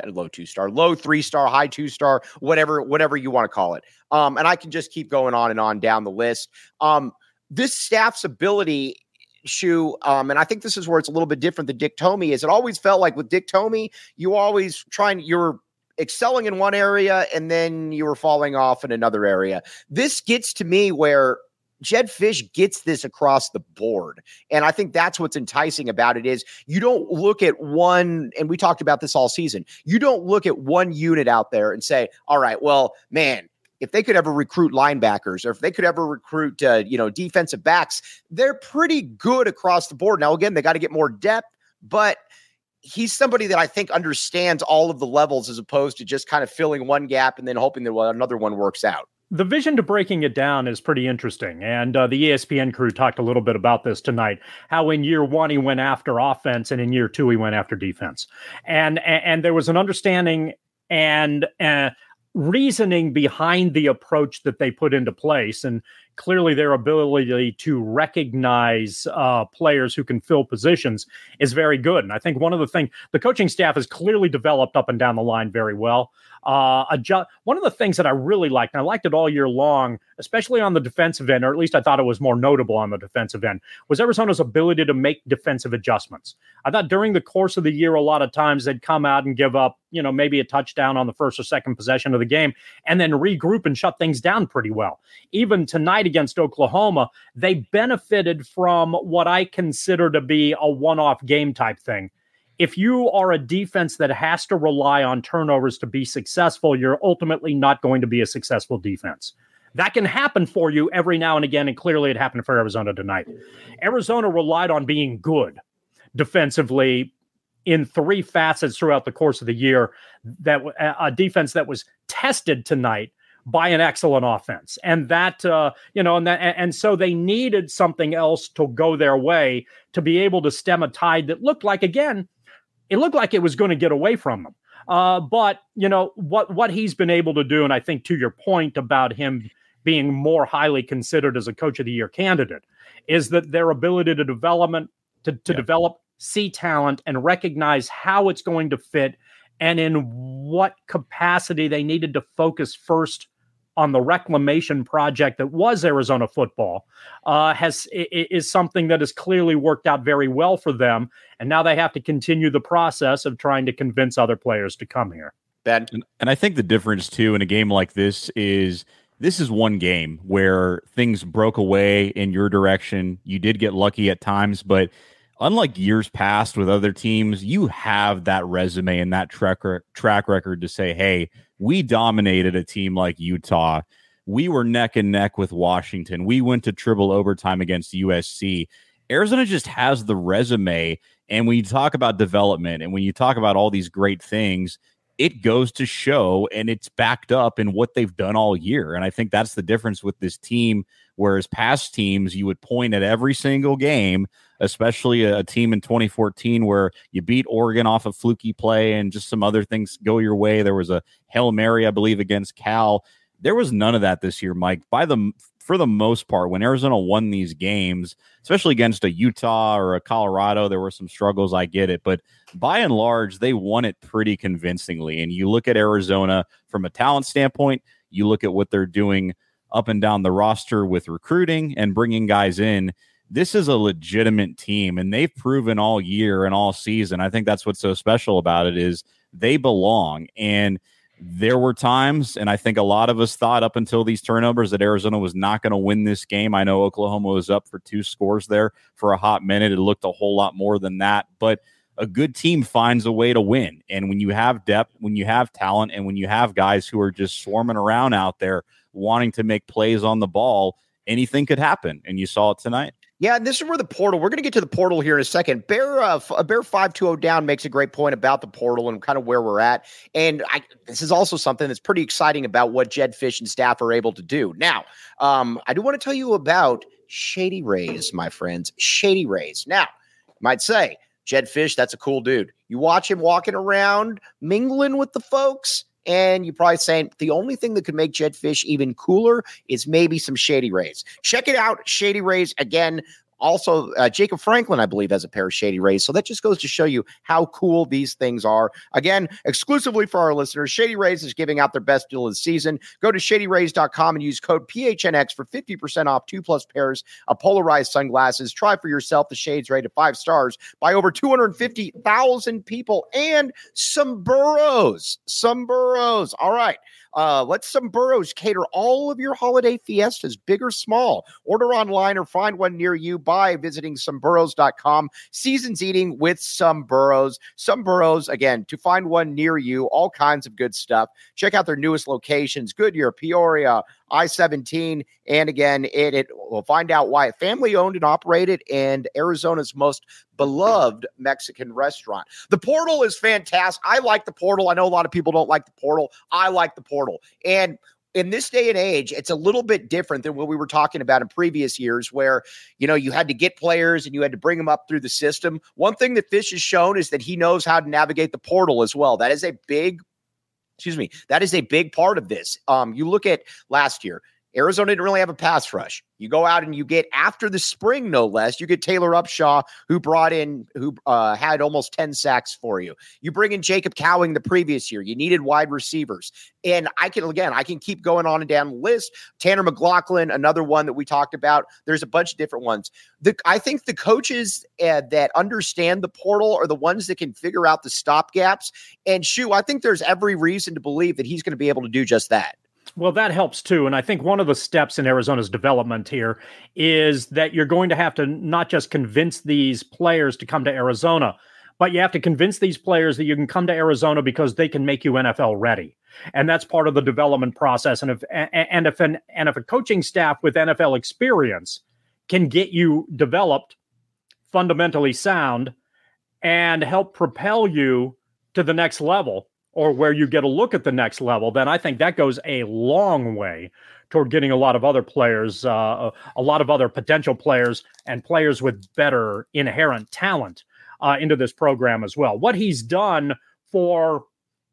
high 2-star, whatever you want to call it. And I can just keep going on and on down the list. This staff's ability, Shoe, and I think this is where it's a little bit different than Dick Tomey, is it always felt like with Dick Tomey, you're excelling in one area and then you were falling off in another area. This gets to me where Jedd Fisch gets this across the board. And I think that's what's enticing about it is you don't look at one, and we talked about this all season, you don't look at one unit out there and say, all right, well, man, if they could ever recruit linebackers or if they could ever recruit, defensive backs, they're pretty good across the board. Now, again, they got to get more depth, but he's somebody that I think understands all of the levels as opposed to just kind of filling one gap and then hoping that another one works out. The vision to breaking it down is pretty interesting. And the ESPN crew talked a little bit about this tonight, how in year 1 he went after offense and in year 2 he went after defense. And there was an understanding and reasoning behind the approach that they put into place. And clearly their ability to recognize players who can fill positions is very good. And I think one of the things, the coaching staff has clearly developed up and down the line very well. One of the things that I really liked, and I liked it all year long, especially on the defensive end, or at least I thought it was more notable on the defensive end, was Arizona's ability to make defensive adjustments. I thought during the course of the year, a lot of times they'd come out and give up, maybe a touchdown on the first or second possession of the game and then regroup and shut things down pretty well. Even tonight against Oklahoma, they benefited from what I consider to be a one-off game type thing. If you are a defense that has to rely on turnovers to be successful, you're ultimately not going to be a successful defense. That can happen for you every now and again, and clearly it happened for Arizona tonight. Arizona relied on being good defensively in three facets throughout the course of the year, that a defense that was tested tonight by an excellent offense. And that, and so they needed something else to go their way to be able to stem a tide that looked like, again, it looked like it was going to get away from them. But, what he's been able to do, and I think to your point about him being more highly considered as a Coach of the Year candidate, is that their ability to develop, see talent, and recognize how it's going to fit and in what capacity they needed to focus first on the reclamation project that was Arizona football is something that has clearly worked out very well for them. And now they have to continue the process of trying to convince other players to come here. Ben? And I think the difference, too, in a game like this is one game where things broke away in your direction. You did get lucky at times, but unlike years past with other teams, you have that resume and that track record to say, hey, we dominated a team like Utah. We were neck and neck with Washington. We went to triple overtime against USC. Arizona just has the resume. And when you talk about development and when you talk about all these great things, it goes to show, and it's backed up in what they've done all year. And I think that's the difference with this team, whereas past teams, you would point at every single game, especially a team in 2014 where you beat Oregon off a fluky play and just some other things go your way. There was a Hail Mary, I believe, against Cal. There was none of that this year, Mike. For the most part, when Arizona won these games, especially against a Utah or a Colorado, there were some struggles, I get it. But by and large, they won it pretty convincingly. And you look at Arizona from a talent standpoint, you look at what they're doing up and down the roster with recruiting and bringing guys in. This is a legitimate team, and they've proven all year and all season. I think that's what's so special about it is they belong. And there were times, and I think a lot of us thought up until these turnovers that Arizona was not going to win this game. I know Oklahoma was up for 2 scores there for a hot minute. It looked a whole lot more than that, but a good team finds a way to win. And when you have depth, when you have talent, and when you have guys who are just swarming around out there wanting to make plays on the ball, anything could happen. And you saw it tonight. Yeah, and this is where the portal, we're going to get to the portal here in a second. Bear 520 down makes a great point about the portal and kind of where we're at. And this is also something that's pretty exciting about what Jedd Fisch and staff are able to do. Now, I do want to tell you about Shady Rays, my friends. Shady Rays. Now, you might say, Jedd Fisch, that's a cool dude. You watch him walking around, mingling with the folks, and you're probably saying the only thing that could make Jedd Fisch even cooler is maybe some Shady Rays. Check it out, Shady Rays. Again, also, Jacob Franklin, I believe, has a pair of Shady Rays. So that just goes to show you how cool these things are. Again, exclusively for our listeners, Shady Rays is giving out their best deal of the season. Go to shadyrays.com and use code PHNX for 50% off 2+ pairs of polarized sunglasses. Try for yourself the shades rated 5 stars by over 250,000 people, and some burros. All right. Let some burros cater all of your holiday fiestas, big or small. Order online or find one near you by visiting someburros.com. Season's eating with Some Burros. Some Burros, again, to find one near you, all kinds of good stuff. Check out their newest locations, Goodyear, Peoria, I-17, and again, it we'll find out why. Family owned and operated, and Arizona's most beloved Mexican restaurant. The portal is fantastic. I like the portal. I know a lot of people don't like the portal. I like the portal. And in this day and age, it's a little bit different than what we were talking about in previous years where, you had to get players and you had to bring them up through the system. One thing that Fisch has shown is that he knows how to navigate the portal as well. That is a big part of this. You look at last year, Arizona didn't really have a pass rush. You go out and you get, after the spring, no less, you get Taylor Upshaw, who had almost 10 sacks for you. You bring in Jacob Cowing the previous year. You needed wide receivers. And I can keep going on and down the list. Tanner McLaughlin, another one that we talked about. There's a bunch of different ones. I think the coaches that understand the portal are the ones that can figure out the stop gaps. And I think there's every reason to believe that he's going to be able to do just that. Well, that helps too. And I think one of the steps in Arizona's development here is that you're going to have to not just convince these players to come to Arizona, but you have to convince these players that you can come to Arizona because they can make you NFL ready. And that's part of the development process. And if a coaching staff with NFL experience can get you developed, fundamentally sound, and help propel you to the next level, or where you get a look at the next level, then I think that goes a long way toward getting a lot of other players, a lot of other potential players and players with better inherent talent into this program as well. What he's done for,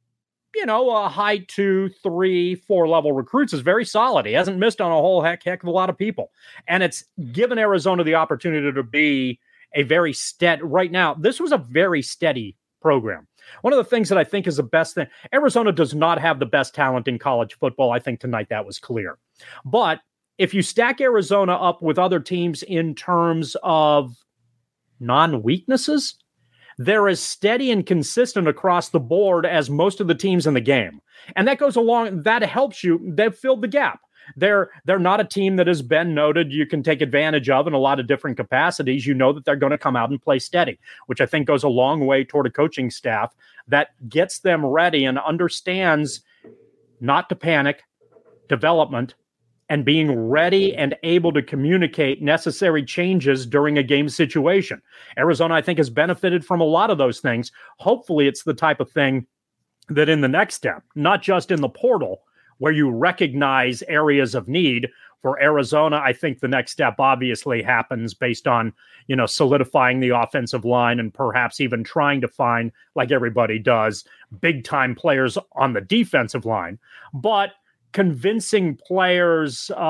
a high 2, 3, 4 level recruits is very solid. He hasn't missed on a whole heck of a lot of people. And it's given Arizona the opportunity to be a very steady, right now, this was a very steady program. One of the things that I think is the best thing, Arizona does not have the best talent in college football. I think tonight that was clear. But if you stack Arizona up with other teams in terms of non-weaknesses, they're as steady and consistent across the board as most of the teams in the game. And that goes along, that helps you. They've filled the gap. They're not a team that has been noted you can take advantage of in a lot of different capacities. You know that they're going to come out and play steady, which I think goes a long way toward a coaching staff that gets them ready and understands not to panic, development, and being ready and able to communicate necessary changes during a game situation. Arizona, I think, has benefited from a lot of those things. Hopefully it's the type of thing that in the next step, not just in the portal, where you recognize areas of need. For Arizona, I think the next step obviously happens based on, solidifying the offensive line and perhaps even trying to find, like everybody does, big-time players on the defensive line. But convincing players, who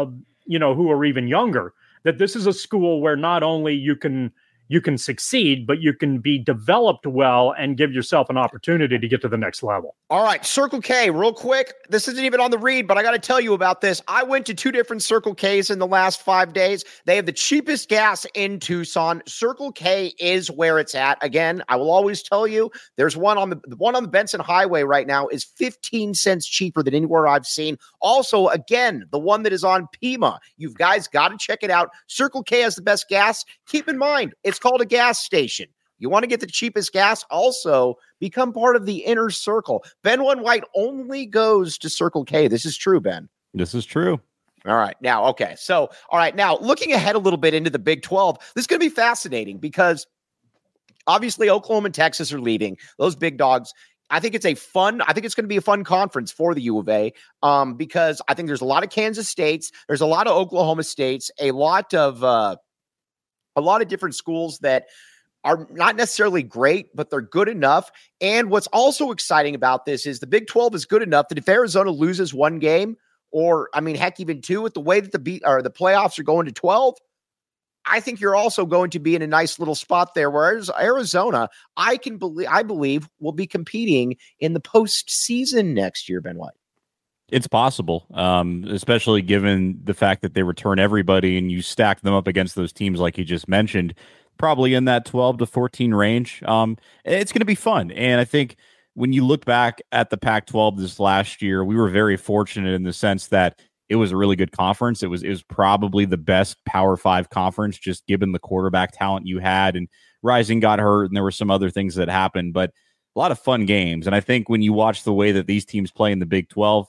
are even younger, that this is a school where not only you can succeed, but you can be developed well and give yourself an opportunity to get to the next level. All right, Circle K, real quick. This isn't even on the read, but I got to tell you about this. I went to 2 different Circle Ks in the last 5 days. They have the cheapest gas in Tucson. Circle K is where it's at. Again, I will always tell you, there's one on the Benson Highway right now is 15 cents cheaper than anywhere I've seen. Also, again, the one that is on Pima. You guys got to check it out. Circle K has the best gas. Keep in mind, it's called a gas station. You want to get the cheapest gas? Also, become part of the inner circle. Ben One White only goes to Circle K. This is true, Ben. This is true. All right. Now, okay. So, all right. Now, looking ahead a little bit into the Big 12, this is going to be fascinating because obviously Oklahoma and Texas are leaving. Those big dogs. I think it's going to be a fun conference for the U of A because I think there's a lot of Kansas States. There's a lot of Oklahoma States, a lot of different schools that are not necessarily great, but they're good enough. And what's also exciting about this is the Big 12 is good enough that if Arizona loses one game, or heck, even 2, with the way that the playoffs are going to 12, I think you're also going to be in a nice little spot there. Whereas Arizona, I believe, will be competing in the postseason next year. Ben White. It's possible, especially given the fact that they return everybody and you stack them up against those teams like you just mentioned, probably in that 12 to 14 range. It's going to be fun. And I think when you look back at the Pac-12 this last year, we were very fortunate in the sense that it was a really good conference. It was probably the best Power 5 conference, just given the quarterback talent you had. And Rising got hurt, and there were some other things that happened, but a lot of fun games. And I think when you watch the way that these teams play in the Big 12,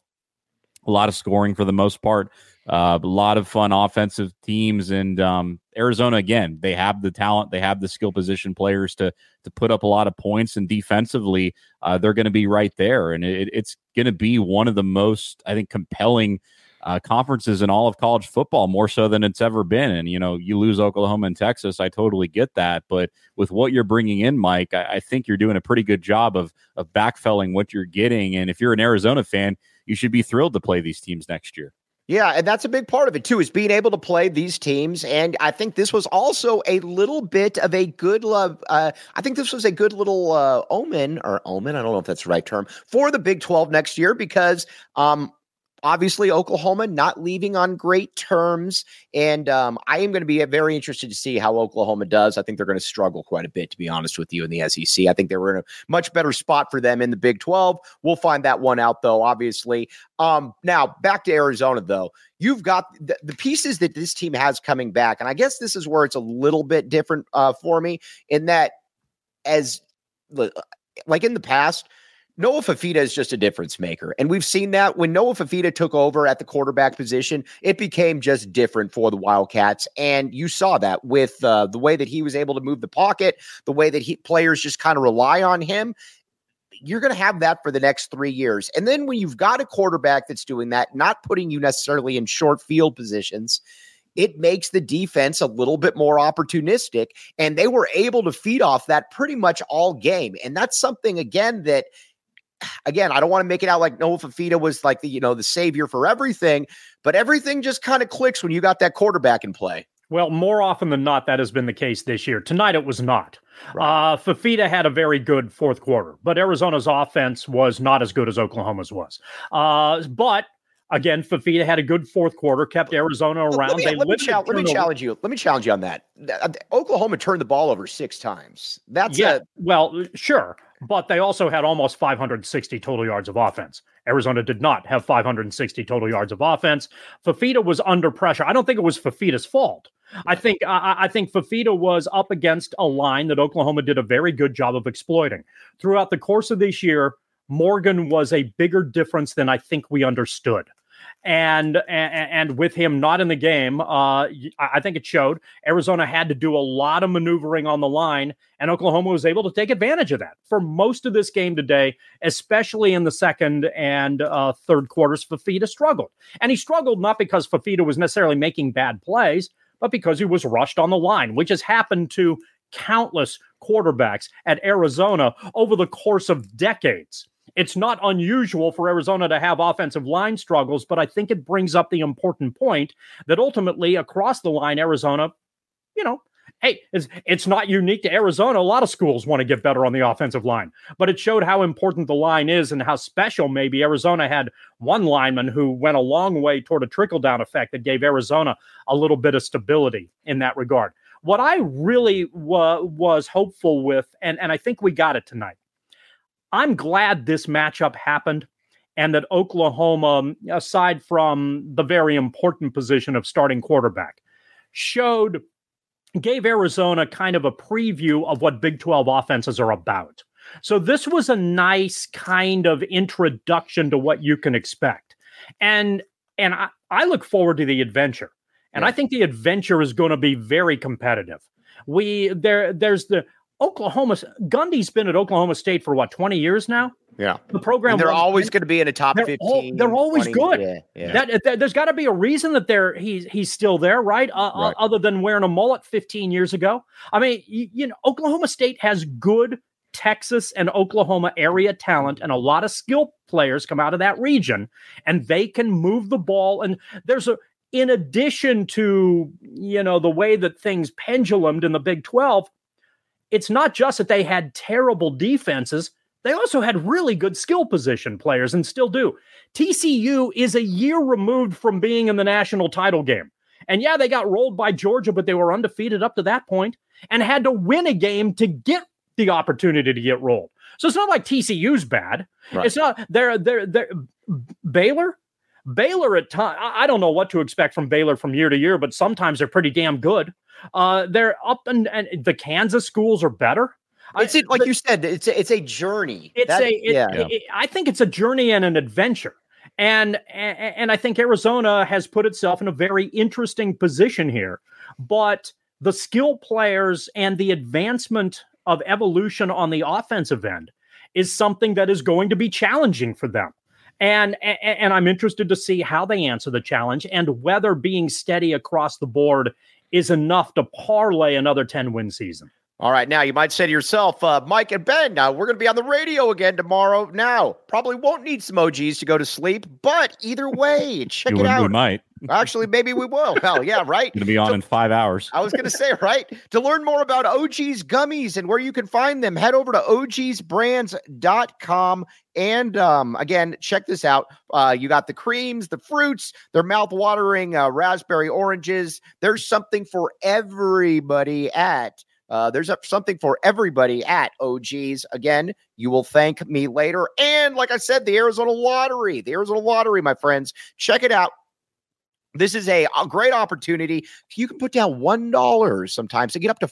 a lot of scoring for the most part, a lot of fun offensive teams. And Arizona, again, they have the talent, they have the skill position players to put up a lot of points, and defensively, they're going to be right there. And it's going to be one of the most, I think, compelling conferences in all of college football, more so than it's ever been. And, you lose Oklahoma and Texas, I totally get that. But with what you're bringing in, Mike, I think you're doing a pretty good job of backfilling what you're getting. And if you're an Arizona fan, you should be thrilled to play these teams next year. Yeah, and that's a big part of it, too, is being able to play these teams. And I think this was also a little bit of a good I think this was a good little omen. I don't know if that's the right term, for the Big 12 next year because obviously Oklahoma not leaving on great terms. And I am going to be very interested to see how Oklahoma does. I think they're going to struggle quite a bit, to be honest with you, in the SEC. I think they were in a much better spot for them in the Big 12. We'll find that one out, though, obviously. Now, back to Arizona, though. You've got the pieces that this team has coming back. And I guess this is where it's a little bit different for me in that as like in the past, Noah Fifita is just a difference maker. And we've seen that when Noah Fifita took over at the quarterback position, it became just different for the Wildcats. And you saw that with the way that he was able to move the pocket, the way that players just kind of rely on him. You're going to have that for the next 3 years. And then when you've got a quarterback that's doing that, not putting you necessarily in short field positions, it makes the defense a little bit more opportunistic. And they were able to feed off that pretty much all game. And that's something, again, I don't want to make it out like Noah Fifita was like the savior for everything, but everything just kind of clicks when you got that quarterback in play. Well, more often than not, that has been the case this year. Tonight, it was not. Right. Fifita had a very good fourth quarter, but Arizona's offense was not as good as Oklahoma's was. But again, Fifita had a good fourth quarter, kept Arizona around. Let me challenge you. Let me challenge you on that. Oklahoma turned the ball over 6 times. Well, sure. But they also had almost 560 total yards of offense. Arizona did not have 560 total yards of offense. Fifita was under pressure. I don't think it was Fifita's fault. I think Fifita was up against a line that Oklahoma did a very good job of exploiting. Throughout the course of this year, Morgan was a bigger difference than I think we understood. And with him not in the game, I think it showed. Arizona had to do a lot of maneuvering on the line, and Oklahoma was able to take advantage of that. For most of this game today, especially in the second and third quarters, Fifita struggled. And he struggled not because Fifita was necessarily making bad plays, but because he was rushed on the line, which has happened to countless quarterbacks at Arizona over the course of decades. It's not unusual for Arizona to have offensive line struggles, but I think it brings up the important point that ultimately across the line, Arizona, hey, it's not unique to Arizona. A lot of schools want to get better on the offensive line, but it showed how important the line is and how special maybe Arizona had one lineman who went a long way toward a trickle-down effect that gave Arizona a little bit of stability in that regard. What I really was hopeful with, and I think we got it tonight, I'm glad this matchup happened and that Oklahoma, aside from the very important position of starting quarterback, gave Arizona kind of a preview of what Big 12 offenses are about. So this was a nice kind of introduction to what you can expect. And I look forward to the adventure. And I think the adventure is going to be very competitive. There's the Gundy's been at Oklahoma State for 20 years now? Yeah. The program. And they're always going to be in a top 15. They're always 20, good. Yeah. There's got to be a reason that he's still there, right? Right? Other than wearing a mullet 15 years ago. I mean, Oklahoma State has good Texas and Oklahoma area talent, and a lot of skill players come out of that region, and they can move the ball. And in addition to, the way that things pendulumed in the Big 12, it's not just that they had terrible defenses. They also had really good skill position players and still do. TCU is a year removed from being in the national title game. And yeah, they got rolled by Georgia, but they were undefeated up to that point and had to win a game to get the opportunity to get rolled. So it's not like TCU's bad. Right. It's not they're Baylor at times. I don't know what to expect from Baylor from year to year, but sometimes they're pretty damn good. They're up and the Kansas schools are better. Like you said, it's a journey. I think it's a journey and an adventure. And I think Arizona has put itself in a very interesting position here. But the skill players and the advancement of evolution on the offensive end is something that is going to be challenging for them. And I'm interested to see how they answer the challenge and whether being steady across the board is enough to parlay another 10-win season. All right. Now, you might say to yourself, Mike and Ben, now we're going to be on the radio again tomorrow. Now, probably won't need some OGs to go to sleep, but either way, check it out. We might. Actually, maybe we will. Hell, yeah, right? Going to be on in 5 hours. I was going to say, right? To learn more about OG's gummies and where you can find them, head over to ogsbrands.com. And again, check this out. You got the creams, the fruits, they're mouth-watering raspberry oranges. There's something for everybody at OG's. Again, you will thank me later. And like I said, the Arizona Lottery, my friends, check it out. This is a great opportunity. You can put down $1 sometimes to get up to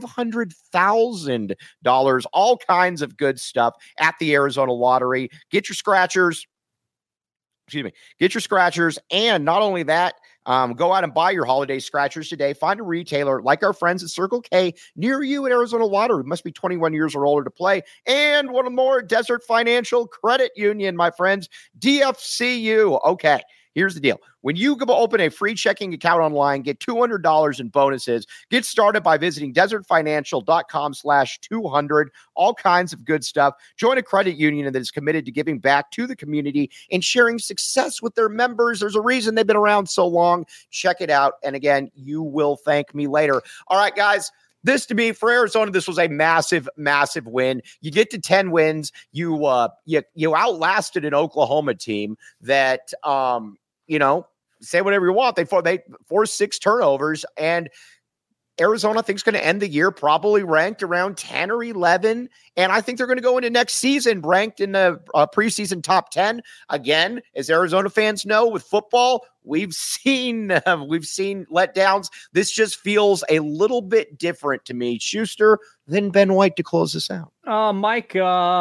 $500,000. All kinds of good stuff at the Arizona Lottery. Get your scratchers. Get your scratchers. And not only that, go out and buy your holiday scratchers today. Find a retailer like our friends at Circle K near you at Arizona Lottery. Must be 21 years or older to play. And one more, Desert Financial Credit Union, my friends. DFCU. Okay. Here's the deal. When you go open a free checking account online, get $200 in bonuses. Get started by visiting desertfinancial.com/200. All kinds of good stuff. Join a credit union that is committed to giving back to the community and sharing success with their members. There's a reason they've been around so long. Check it out. And again, you will thank me later. All right, guys. This, to me, for Arizona, this was a massive, massive win. You get to 10 wins. You outlasted an Oklahoma team that, say whatever you want. They forced 6 turnovers, and Arizona, I think, is going to end the year probably ranked around 10 or 11. And I think they're going to go into next season ranked in the preseason top 10. Again, as Arizona fans know, with football, we've seen letdowns. This just feels a little bit different to me. Schuster, then Ben White to close this out. Mike, you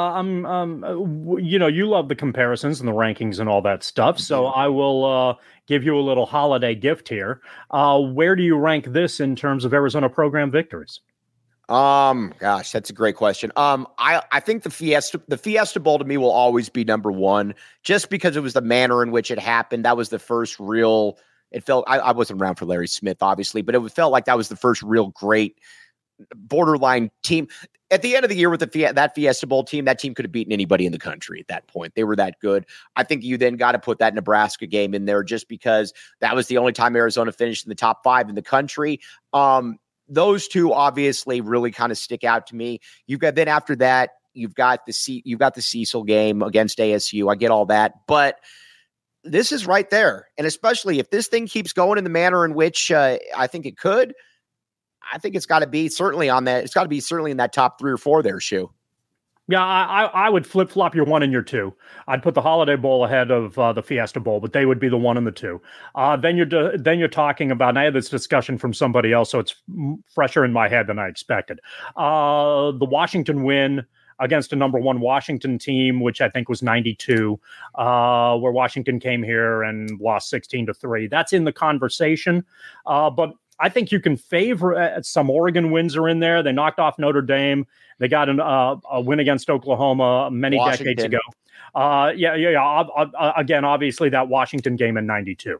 love the comparisons and the rankings and all that stuff. So I will give you a little holiday gift here. Where do you rank this in terms of Arizona program victories? Gosh, that's a great question. I think the Fiesta Bowl to me will always be number one, just because it was the manner in which it happened. That was the first real, it felt, I wasn't around for Larry Smith, obviously, but it felt like that was the first real great borderline team. At the end of the year with that Fiesta Bowl team, that team could have beaten anybody in the country at that point. They were that good. I think you then got to put that Nebraska game in there just because that was the only time Arizona finished in the top 5 in the country. Those two obviously really kind of stick out to me. You've got, then after that, you've got the Cecil game against ASU. I get all that, but this is right there. And especially if this thing keeps going in the manner in which I think it could, I think it's got to be certainly on that. It's got to be certainly in that top 3 or 4 there, Shu. Yeah, I would flip-flop your 1 and your 2. I'd put the Holiday Bowl ahead of the Fiesta Bowl, but they would be the 1 and the 2. Then you're talking about, and I had this discussion from somebody else, so it's fresher in my head than I expected. The Washington win against a number 1 Washington team, which I think was 92, where Washington came here and lost 16-3. That's in the conversation, but I think you can favor some Oregon wins are in there. They knocked off Notre Dame. They got a win against Oklahoma many decades ago. Again, obviously that Washington game in 92.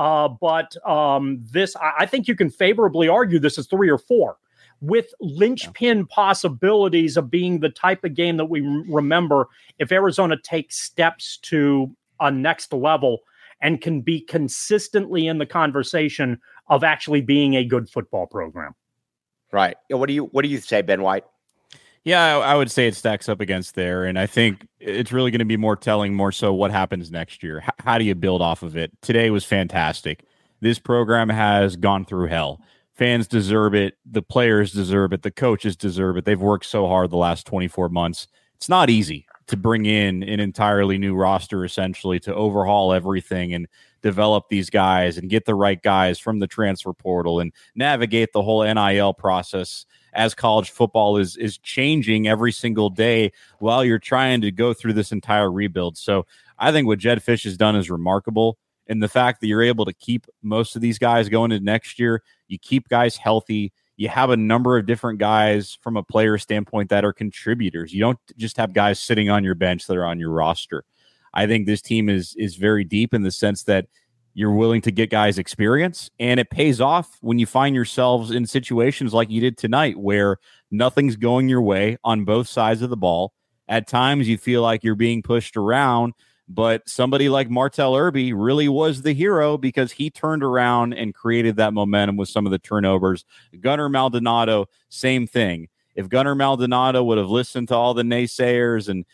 But this, I think you can favorably argue this is 3 or 4 with linchpin possibilities of being the type of game that we remember if Arizona takes steps to a next level and can be consistently in the conversation of actually being a good football program. Right. What do you say, Ben White? Yeah, I would say it stacks up against there. And I think it's really going to be more telling, more so what happens next year. How do you build off of it? Today was fantastic. This program has gone through hell. Fans deserve it. The players deserve it. The coaches deserve it. They've worked so hard the last 24 months. It's not easy to bring in an entirely new roster, essentially, to overhaul everything and develop these guys and get the right guys from the transfer portal and navigate the whole NIL process as college football is changing every single day while you're trying to go through this entire rebuild. So I think what Jedd Fisch has done is remarkable. And the fact that you're able to keep most of these guys going into next year, you keep guys healthy. You have a number of different guys from a player standpoint that are contributors. You don't just have guys sitting on your bench that are on your roster. I think this team is very deep in the sense that you're willing to get guys experience, and it pays off when you find yourselves in situations like you did tonight where nothing's going your way on both sides of the ball. At times you feel like you're being pushed around, but somebody like Martell Irby really was the hero because he turned around and created that momentum with some of the turnovers. Gunnar Maldonado, same thing. If Gunnar Maldonado would have listened to all the naysayers and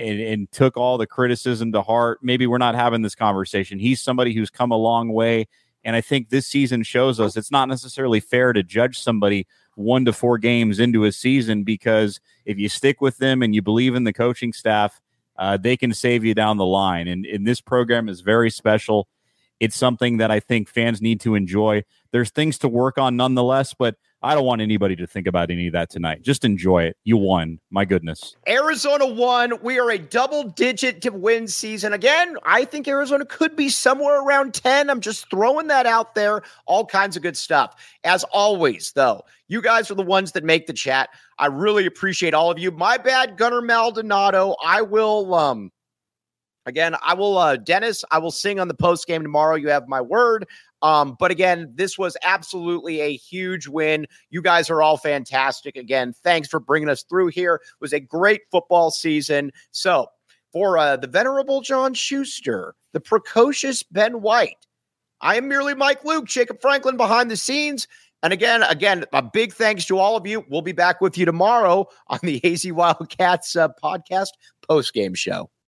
took all the criticism to heart, maybe we're not having this conversation. He's somebody who's come a long way, and I think this season shows us it's not necessarily fair to judge somebody 1 to 4 games into a season, because if you stick with them and you believe in the coaching staff, they can save you down the line. And this program is very special. It's something that I think fans need to enjoy. There's things to work on nonetheless, but I don't want anybody to think about any of that tonight. Just enjoy it. You won. My goodness. Arizona won. We are a double-digit win season. Again, I think Arizona could be somewhere around 10. I'm just throwing that out there. All kinds of good stuff. As always, though, you guys are the ones that make the chat. I really appreciate all of you. My bad, Gunnar Maldonado. I will, Dennis, I will sing on the post game tomorrow. You have my word. But again, this was absolutely a huge win. You guys are all fantastic. Again, thanks for bringing us through here. It was a great football season. So for the venerable John Schuster, the precocious Ben White, I am merely Mike Luke, Jacob Franklin behind the scenes. And again, a big thanks to all of you. We'll be back with you tomorrow on the AZ Wildcats podcast post-game show.